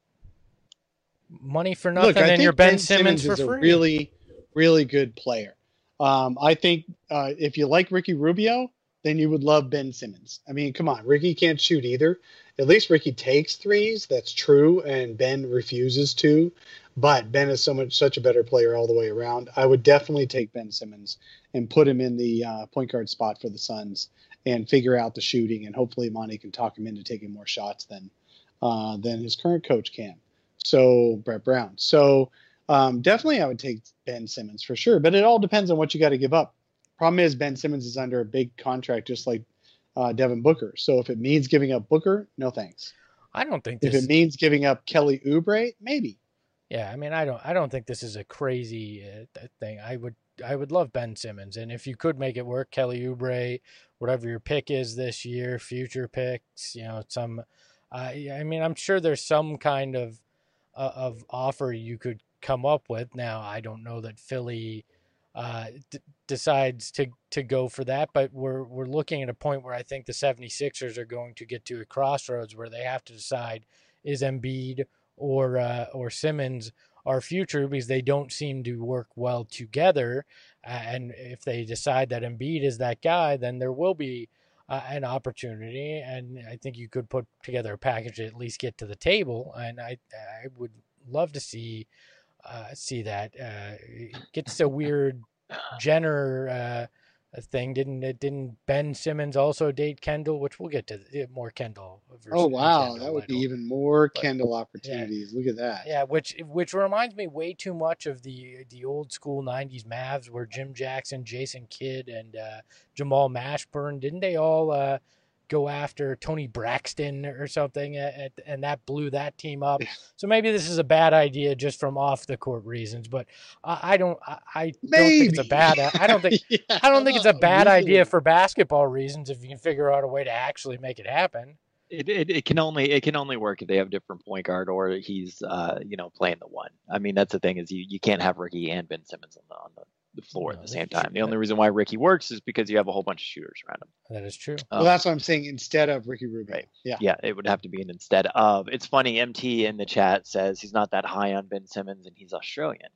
Money for nothing, Look, I and think you're Ben, Ben Simmons, Simmons for is free. a really, really good player. Um, I think uh, if you like Ricky Rubio, then you would love Ben Simmons. I mean, come on, Ricky can't shoot either. At least Ricky takes threes. That's true, and Ben refuses to. But Ben is so much such a better player all the way around. I would definitely take Ben Simmons and put him in the uh, point guard spot for the Suns and figure out the shooting. And hopefully Monty can talk him into taking more shots than uh, than his current coach can. So Brett Brown. So um, definitely I would take Ben Simmons for sure. But it all depends on what you got to give up. Problem is Ben Simmons is under a big contract just like uh, Devin Booker. So if it means giving up Booker, no thanks. I don't think If this... it means giving up Kelly Oubre, maybe. Yeah, I mean, I don't, I don't think this is a crazy uh, thing. I would, I would love Ben Simmons, and if you could make it work, Kelly Oubre, whatever your pick is this year, future picks, you know, some. Uh, I mean, I'm sure there's some kind of uh, of offer you could come up with. Now, I don't know that Philly uh, d- decides to to go for that, but we're we're looking at a point where I think the 76ers are going to get to a crossroads where they have to decide: is Embiid or uh, or Simmons our future, because they don't seem to work well together. Uh, and if they decide that Embiid is that guy, then there will be uh, an opportunity. And I think you could put together a package to at least get to the table. And I I would love to see uh, see that. Uh, it gets a weird Jenner uh, thing. Didn't it? Didn't Ben Simmons also date Kendall? Which we'll get to more Kendall. Oh wow, Kendall, that would be Kendall. even more But, Kendall opportunities. Yeah. Look at that. Yeah, which which reminds me way too much of the the old school nineties Mavs, where Jim Jackson, Jason Kidd, and uh, Jamal Mashburn, didn't they all uh, go after Tony Braxton or something, at, at, and that blew that team up? So maybe this is a bad idea just from off the court reasons, but I, I don't I, I don't think it's a bad I don't think yeah. I don't think it's a bad Really? idea for basketball reasons if you can figure out a way to actually make it happen. It, it it can only it can only work if they have different point guard or he's uh you know playing the one. I mean that's the thing is you, you can't have Ricky and Ben Simmons on the on the, the floor No, at the same that's time. true. The only reason why Ricky works is because you have a whole bunch of shooters around him. That is true. Well, Um, that's what I'm saying. Instead of Ricky Rubio. Right. Yeah. Yeah, it would have to be an instead of. It's funny. M T in the chat says he's not that high on Ben Simmons and he's Australian.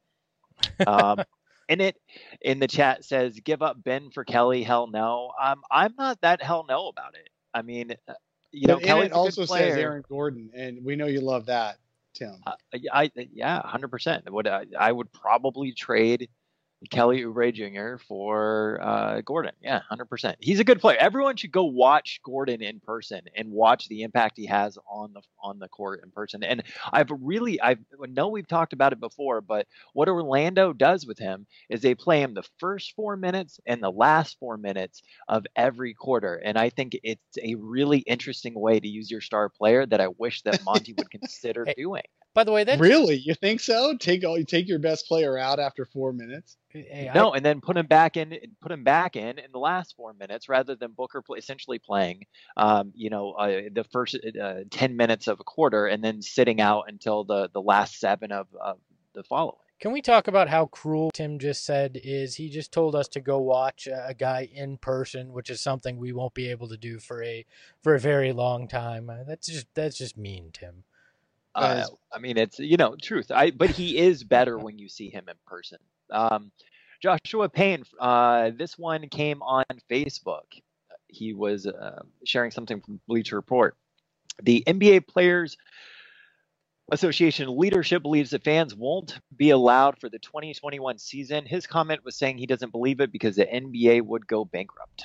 Um, and it in the chat says give up Ben for Kelly. Hell no. Um, I'm not that hell no about it. I mean. You know, But Kelly's it a good also player. says Aaron Gordon, and we know you love that, Tim. Uh, I yeah, one hundred percent. Would I, I would probably trade Kelly Oubre Junior for uh, Gordon. Yeah, one hundred percent. He's a good player. Everyone should go watch Gordon in person and watch the impact he has on the on the court in person. And I've really, I know we've talked about it before, but what Orlando does with him is they play him the first four minutes and the last four minutes of every quarter. And I think it's a really interesting way to use your star player that I wish that Monty would consider Hey, doing. By the way, that really, you think so? Take all you take your best player out after four minutes. Hey, No, I, and then put him back in. Put him back in in the last four minutes, rather than Booker play, essentially playing, um, you know, uh, the first uh, ten minutes of a quarter, and then sitting out until the the last seven of, of the following. Can we talk about how cruel Tim just said is? He just told us to go watch a guy in person, which is something we won't be able to do for a for a very long time. Uh, That's just that's just mean, Tim. Uh, I mean, it's, you know, truth. I but he is better when you see him in person. Um, Joshua Payne, uh, this one came on Facebook. He was uh, sharing something from Bleacher Report. The N B A Players Association leadership believes that fans won't be allowed for the twenty twenty-one season. His comment was saying he doesn't believe it because the N B A would go bankrupt.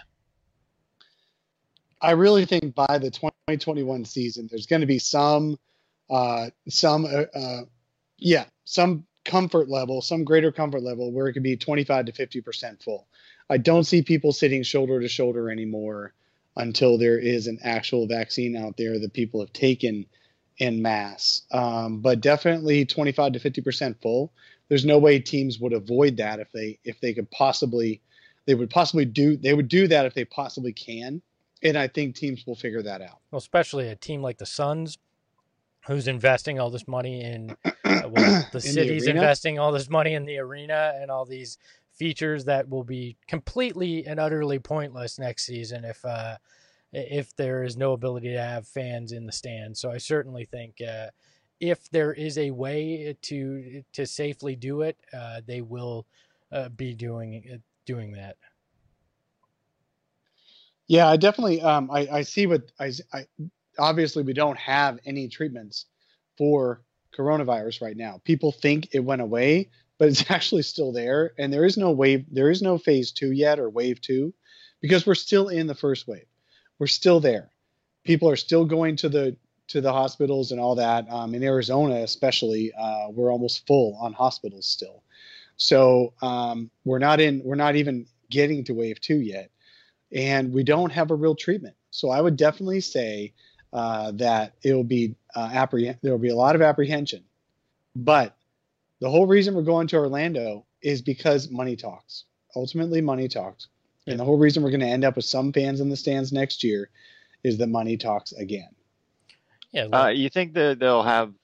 I really think by the twenty twenty-one season, there's going to be some, uh, some, uh, uh, yeah, some comfort level, some greater comfort level where it could be twenty-five to fifty percent full. I don't see people sitting shoulder to shoulder anymore until there is an actual vaccine out there that people have taken in mass. Um, but definitely twenty-five to fifty percent full. There's no way teams would avoid that if they if they could possibly they would possibly do they would do that if they possibly can. And I think teams will figure that out. Well, especially a team like the Suns, who's investing all this money in, uh, well, the In the city's arena? investing all this money in the arena and all these features that will be completely and utterly pointless next season if uh, if there is no ability to have fans in the stands. So I certainly think uh, if there is a way to to safely do it, uh, they will uh, be doing doing that. Yeah, I definitely. Um, I, I see what I, I. Obviously, we don't have any treatments for coronavirus right now. People think it went away, but it's actually still there, and there is no wave. There is no phase two yet or wave two, because we're still in the first wave. We're still there. People are still going to the to the hospitals and all that. Um, in Arizona, especially, uh, we're almost full on hospitals still. So um, we're not in. We're not even getting to wave two yet. And we don't have a real treatment. So I would definitely say uh, that it will be uh, apprehend- there will be a lot of apprehension. But the whole reason we're going to Orlando is because money talks. Ultimately, money talks. And the whole reason we're going to end up with some fans in the stands next year is that money talks again. Yeah, Uh, you think that they'll have...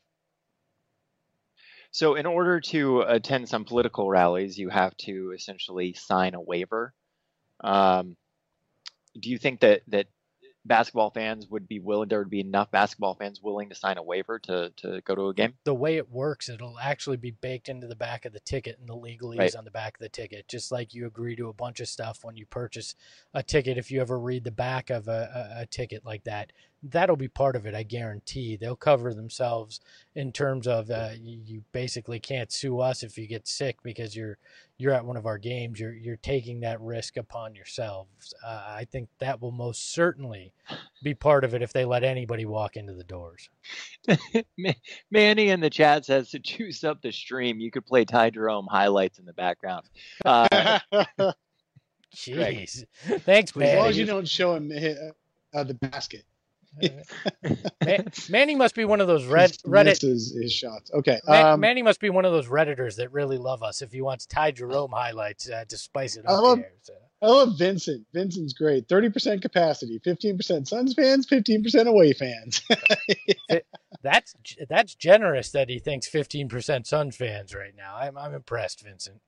So in order to attend some political rallies, you have to essentially sign a waiver. Um, do you think that, that basketball fans would be willing, there would be enough basketball fans willing to sign a waiver to, to go to a game? the way it works, it'll actually be baked into the back of the ticket, and the legalese Right. on the back of the ticket, just like you agree to a bunch of stuff when you purchase a ticket. If you ever read the back of a, a, a ticket like that, that'll be part of it. I guarantee they'll cover themselves in terms of uh, you, you basically can't sue us if you get sick because you're you're at one of our games. You're you're taking that risk upon yourselves. Uh, I think that will most certainly be part of it if they let anybody walk into the doors. Ma- Manny in the chat says to juice up the stream, you could play Ty Jerome highlights in the background. Uh, as Jeez. Thanks, long as Manny. you don't show him uh, the basket. Man, Manny must be one of those red He Reddit. misses his shots. Okay. Man, Um, Manny must be one of those Redditors that really love us if he wants Ty Jerome highlights uh, to spice it I up love- there. So. I love Vincent. Vincent's great. thirty percent capacity, fifteen percent Suns fans, fifteen percent away fans. That's that's generous that he thinks fifteen percent Suns fans right now. I'm I'm impressed, Vincent.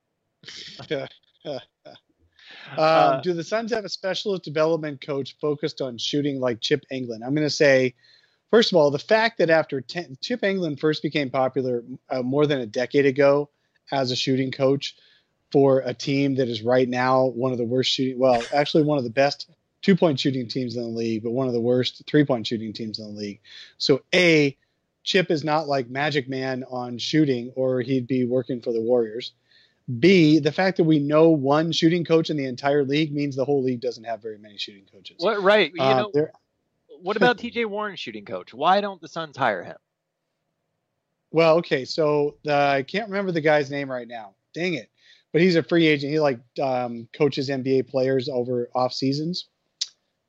Um, Uh, do the Suns have a specialist development coach focused on shooting like Chip Engelland? I'm going to say, first of all, the fact that after ten, Chip Engelland first became popular uh, more than a decade ago as a shooting coach for a team that is right now one of the worst shooting, well, actually one of the best two-point shooting teams in the league, but one of the worst three-point shooting teams in the league. So, A, Chip is not like Magic Man on shooting, or he'd be working for the Warriors. B, the fact that we know one shooting coach in the entire league means the whole league doesn't have very many shooting coaches. what, right. You Uh, know, there- what about T J Warren shooting coach? Why don't the Suns hire him? well, okay, so the, I can't remember the guy's name right now. Dang it. But he's a free agent. He like um, coaches N B A players over off seasons.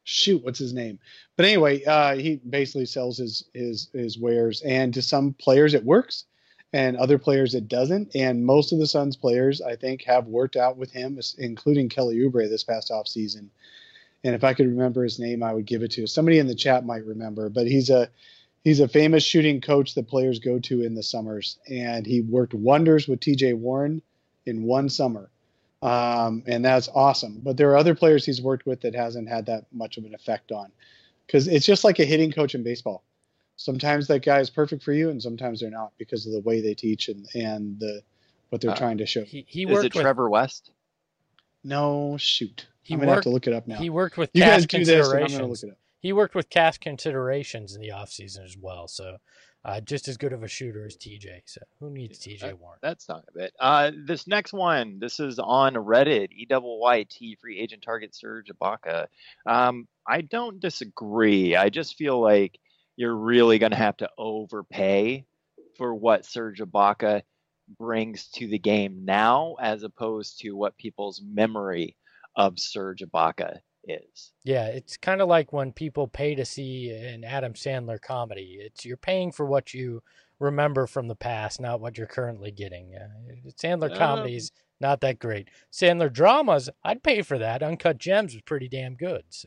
shoot, what's his name? But anyway, uh, he basically sells his his his wares, and to some players it works, and other players it doesn't. And most of the Suns players, I think, have worked out with him, including Kelly Oubre this past off season. And if I could remember his name, I would give it to somebody in the chat might remember. But he's a he's a famous shooting coach that players go to in the summers, and he worked wonders with T J Warren in one summer. Um, and that's awesome. But there are other players he's worked with that hasn't had that much of an effect on, because it's just like a hitting coach in baseball. Sometimes that guy is perfect for you, and sometimes they're not because of the way they teach and, and the what they're uh, trying to show. He, he is worked it with, Trevor West? No, shoot. He I'm gonna worked, have to look it up now. He worked with you cast guys do this, and I'm considerations. gonna look it up. He worked with cast considerations in the offseason as well. So uh, just as good of a shooter as T J. So who needs T J that, Warren? That's not a bit. Uh, this next one, this is on Reddit. E W Y T free agent target Serge Ibaka. Um, I don't disagree. I just feel like you're really going to have to overpay for what Serge Ibaka brings to the game now, as opposed to what people's memory of Serge Ibaka is. Yeah, it's kind of like when people pay to see an Adam Sandler comedy. It's you're paying for what you remember from the past, not what you're currently getting. Uh, Sandler um, comedies not that great. Sandler dramas, I'd pay for that. Uncut Gems was pretty damn good. So,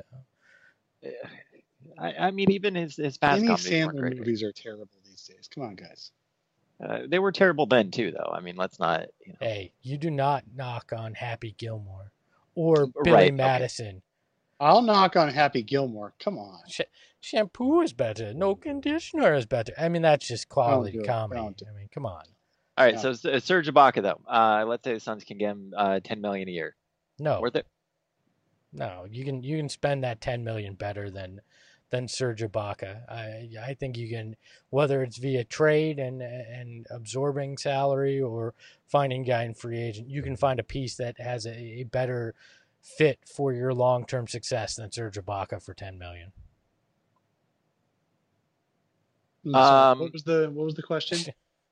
I, I mean, even his his past Any comedies Sandler weren't great. movies are terrible these days. Come on, guys. Uh, they were terrible then too, though. I mean, let's not. You know. Hey, you do not knock on Happy Gilmore or Billy right, Madison. Okay. I'll knock on Happy Gilmore. Come on. Sh- shampoo is better. No conditioner is better. I mean, that's just quality comedy. I mean, come on. All right, no. so Serge Ibaka, though. Uh, let's say the Suns can get him uh, ten million dollars a year. No. Worth it? No, you can you can spend that ten million dollars better than than Serge Ibaka. I I think you can, whether it's via trade and and absorbing salary or finding a guy in free agent, you can find a piece that has a, a better fit for your long-term success than Serge Ibaka for ten million dollars. Um, what was the what was the question?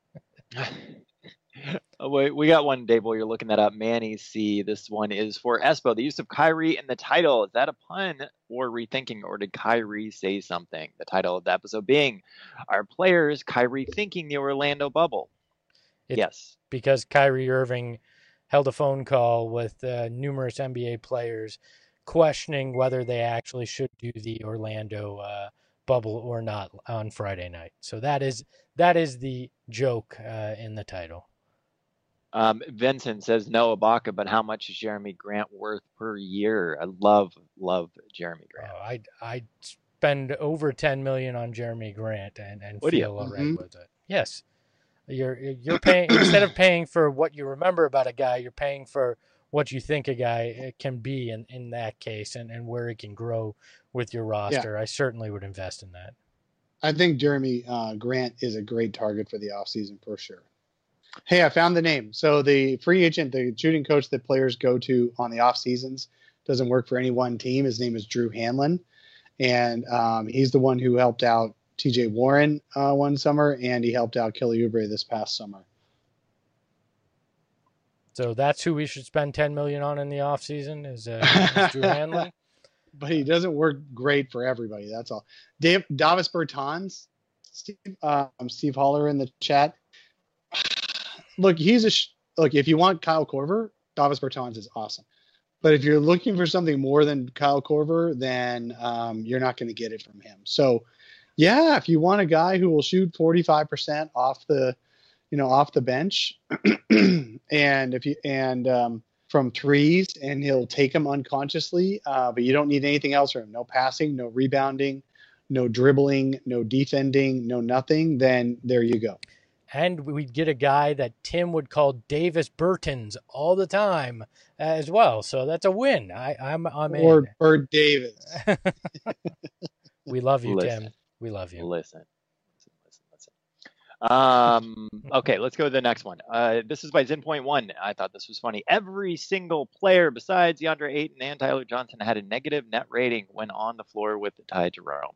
oh, wait, we got one, Dave, while you're looking that up. Manny C. This one is for Espo. The use of Kyrie in the title, is that a pun or rethinking, or did Kyrie say something? The title of the episode being, are players Kyrie thinking the Orlando bubble? It's yes. Because Kyrie Irving held a phone call with uh, numerous N B A players questioning whether they actually should do the Orlando uh, bubble or not on Friday night. So that is that is the joke uh, in the title. Um, Vincent says no Ibaka, but how much is Jeremy Grant worth per year? I love love Jeremy Grant. Oh, I I spend over ten million on Jeremy Grant and and Would feel you? all right Mm-hmm. with it. Yes, you're you're paying instead of paying for what you remember about a guy, you're paying for what you think a guy can be in, in that case and, and where he can grow with your roster. Yeah. I certainly would invest in that. I think Jeremy uh, Grant is a great target for the offseason for sure. Hey, I found the name. So the free agent, the shooting coach that players go to on the off seasons doesn't work for any one team. His name is Drew Hanlon. And um, he's the one who helped out T J Warren uh, one summer, and he helped out Kelly Oubre this past summer. So that's who we should spend ten million dollars on in the offseason is, uh, is Drew Hanlon. But he doesn't work great for everybody. That's all. Dave, Davis Bertans, Steve, um, Steve Holler in the chat. Look, he's a sh- look. If you want Kyle Korver, Davis Bertans is awesome. But if you're looking for something more than Kyle Korver, then um, you're not going to get it from him. So, yeah, if you want a guy who will shoot forty-five percent off the, you know, off the bench, and if you and um, from threes, and he'll take them unconsciously, uh, but you don't need anything else from him. No passing, no rebounding, no dribbling, no defending, no nothing. Then there you go. And we'd get a guy that Tim would call Davis Bertans all the time as well. So that's a win. I, I'm I'm or in. Bird Davis. We love you, Listen. Tim. We love you. Listen. Listen, listen, listen. Um, okay, let's go to the next one. Uh, this is by Zen Point One. I thought this was funny. Every single player besides DeAndre Ayton and Tyler Johnson had a negative net rating when on the floor with Ty Jerome.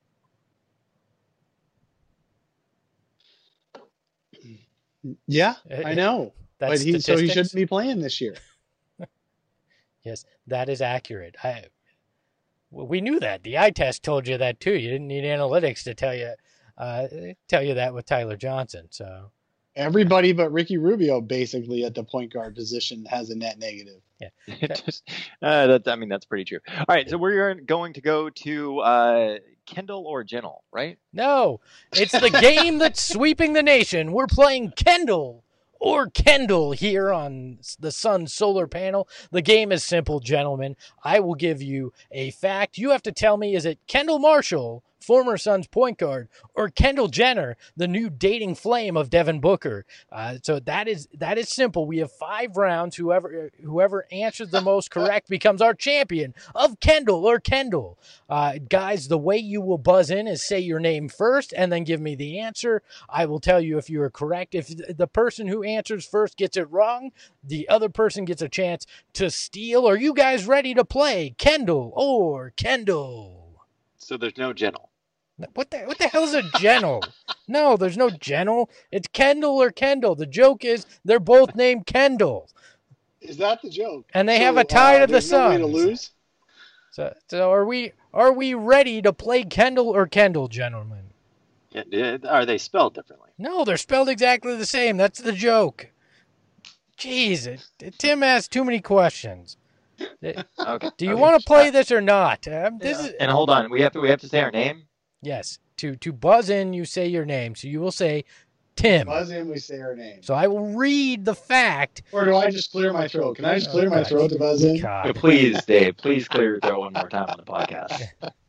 Yeah, I know. That's but he so he statistics? shouldn't be playing this year. Yes, that is accurate. I Well, we knew that. The eye test told you that too. You didn't need analytics to tell you uh, tell you that with Tyler Johnson. So everybody but Ricky Rubio basically at the point guard position has a net negative. Yeah, Just, uh, that's, I mean, that's pretty true. All right, so we're going to go to uh, Kendall or Jennell, right? No, it's the game that's sweeping the nation. We're playing Kendall or Kendall here on the Sun Solar Panel. The game is simple, gentlemen. I will give you a fact. You have to tell me, is it Kendall Marshall, former Suns point guard, or Kendall Jenner, the new dating flame of Devin Booker? Uh, so that is that is simple. We have five rounds. Whoever whoever answers the most correct becomes our champion of Kendall or Kendall. Uh, guys, the way you will buzz in is say your name first and then give me the answer. I will tell you if you are correct. If the person who answers first gets it wrong, the other person gets a chance to steal. Are you guys ready to play Kendall or Kendall? So there's no Jennell. What the what the hell is a Jennell? No, there's no Jennell. It's Kendall or Kendall. The joke is they're both named Kendall, Is that the joke? and they So, have a tie uh, to the there's no way Suns. to lose? So, so are we are we ready to play Kendall or Kendall, gentlemen? Yeah, yeah, Are they spelled differently? No, they're spelled exactly the same. That's the joke. Jeez, it, Tim asked too many questions. Okay. Do you okay. want to play this or not? Um, this is And hold on, we have to we have to say our name. yes. To to buzz in, you say your name. So you will say Tim. Buzz in, we say our name. So I will read the fact. Or do I just clear my throat? Can I just clear my Okay. throat to buzz in? God. Please, Dave, please clear your throat one more time on the podcast.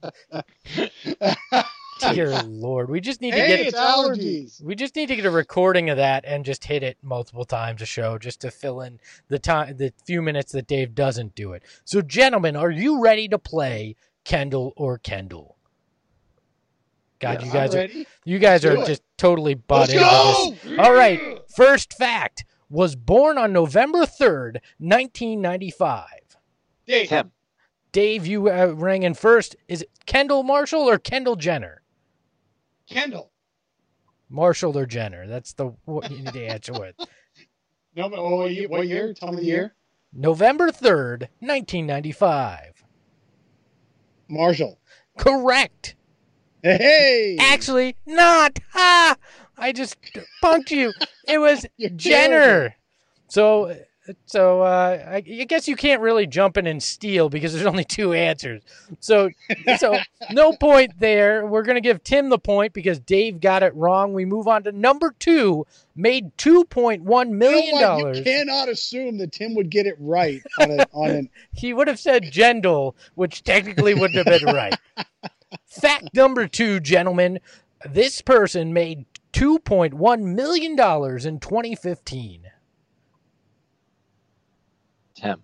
Dear Lord, we just need to Hey, get it's allergies. we just need to get a recording of that and just hit it multiple times a show just to fill in the time the few minutes that Dave doesn't do it. So gentlemen, are you ready to play Kendall or Kendall? God, Yes. you guys I'm are ready. you guys Let's are do it. just totally bought Let's into go! this. All right, first fact, was born on November third, nineteen ninety-five. Dave, Tim, Dave, you uh, rang in first. Is it Kendall Marshall or Kendall Jenner? Kendall. Marshall or Jenner? That's the what you need to answer with. No, but oh, what year? What year? Tell me the year. November third, nineteen ninety-five. Marshall. Correct. Hey! Actually, not. Ah, I just punked you. It was You're Jenner. terrible. So, so uh, I, I guess you can't really jump in and steal because there's only two answers. So, so no point there. We're gonna give Tim the point because Dave got it wrong. We move on to number two. Made two point one million You know what? dollars. You cannot assume that Tim would get it right on a, on an. He would have said Jendal, which technically wouldn't have been right. Fact number two, gentlemen. This person made two point one million dollars in twenty fifteen. Tim,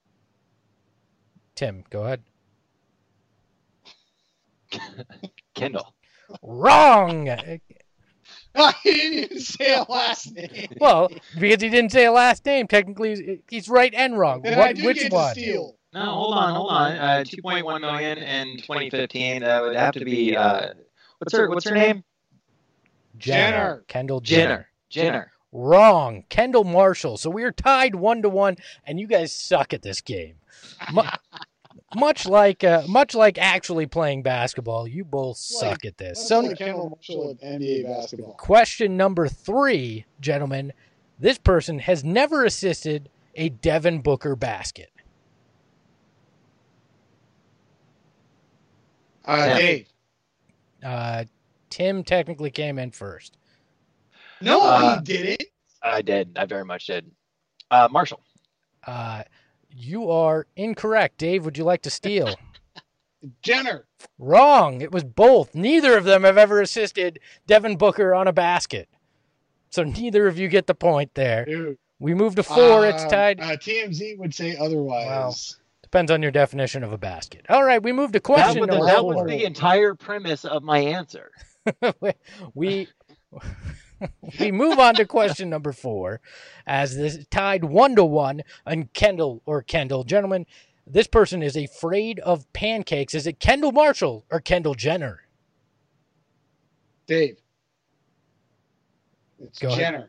Tim, go ahead. Kendall. Wrong. I didn't even say a last name. Well, because he didn't say a last name, technically he's right and wrong. Then I What, do which get one? to steal. No, hold on, hold on. Uh, two point one million in twenty fifteen. That would have to be. Uh, what's her What's her name? Jenner. Kendall Jenner. Jenner. Jenner. Wrong. Kendall Marshall. So we are tied one to one, and you guys suck at this game. Mu- much like uh, much like actually playing basketball, you both suck Like- at this. Let's So play Kendall Marshall at N B A basketball. question number three, gentlemen. This person has never assisted a Devin Booker basket. Uh, Tim. Dave. Uh, Tim technically came in first. No, Uh, he didn't. I did. I very much did. Uh, Marshall. Uh, you are incorrect. Dave, would you like to steal? Jenner. Wrong. It was both. Neither of them have ever assisted Devin Booker on a basket. So neither of you get the point there. Dude. We move to four. It's Um, tied. Uh, T M Z would say otherwise. Depends on your definition of a basket. All right, we move to That, question was, number that four. was the entire premise of my answer. we we move on to question number four, as this is tied one to one on Kendall or Kendall. Gentlemen, this person is afraid of pancakes. Is it Kendall Marshall or Kendall Jenner? Dave. It's Go ahead. Jenner.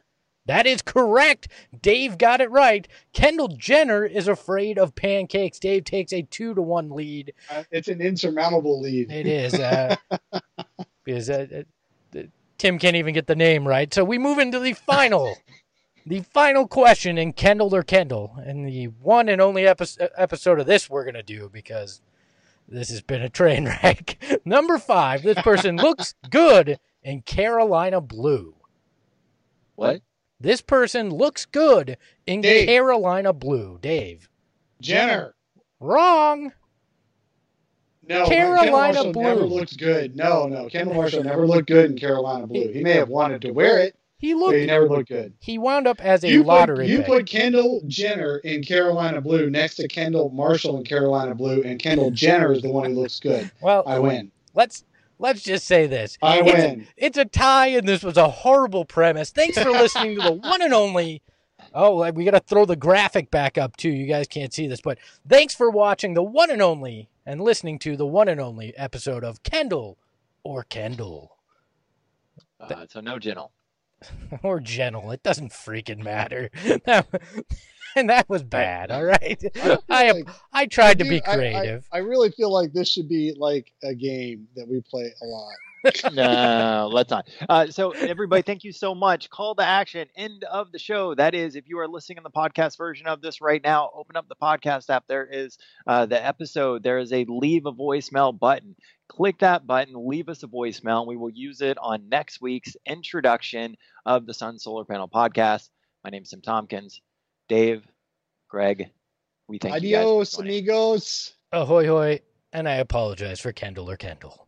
That is correct. Dave got it right. Kendall Jenner is afraid of pancakes. Dave takes a two to one lead. Uh, it's an insurmountable lead. It is. Uh, because uh, uh, Tim can't even get the name right. So we move into the final. The final question in Kendall or Kendall. And the one and only epi- episode of this we're going to do because this has been a train wreck. Number five, this person looks good in Carolina blue. What? This person looks good in Dave. Carolina blue. Dave. Jenner. Wrong. No, Carolina Kendall Marshall blue. never looked good. No, no, Kendall Marshall never looked good in Carolina blue. He may have wanted to wear it, He but looked. he never looked good. He wound up as a You lottery put, you pick. put Kendall Jenner in Carolina blue next to Kendall Marshall in Carolina blue, and Kendall Jenner is the one who looks good. Well, I win. let's let's just say this. I it's, win. It's a tie, and this was a horrible premise. Thanks for listening to the one and only. Oh, we got to throw the graphic back up too. You guys can't see this, but thanks for watching the one and only and listening to the one and only episode of Kendall or Kendall Uh, so no Gentle. or Gentle. It doesn't freaking matter. That, and that was bad. All right. I like- I tried to Dude, be I- I- creative. I, really feel like this should be like a game that we play a lot. No, let's not. Uh, so, everybody, thank you so much. Call to action, end of the show. That is, if you are listening in the podcast version of this right now, open up the podcast app. There is uh, the episode. There is a leave a voicemail button. Click that button, leave us a voicemail, and we will use it on next week's introduction of the Sun Solar Panel podcast. My name is Tim Tompkins. Dave, Greg, we thank you guys for Adios, joining. amigos. Ahoy hoy, and I apologize for Kendall or Kendall.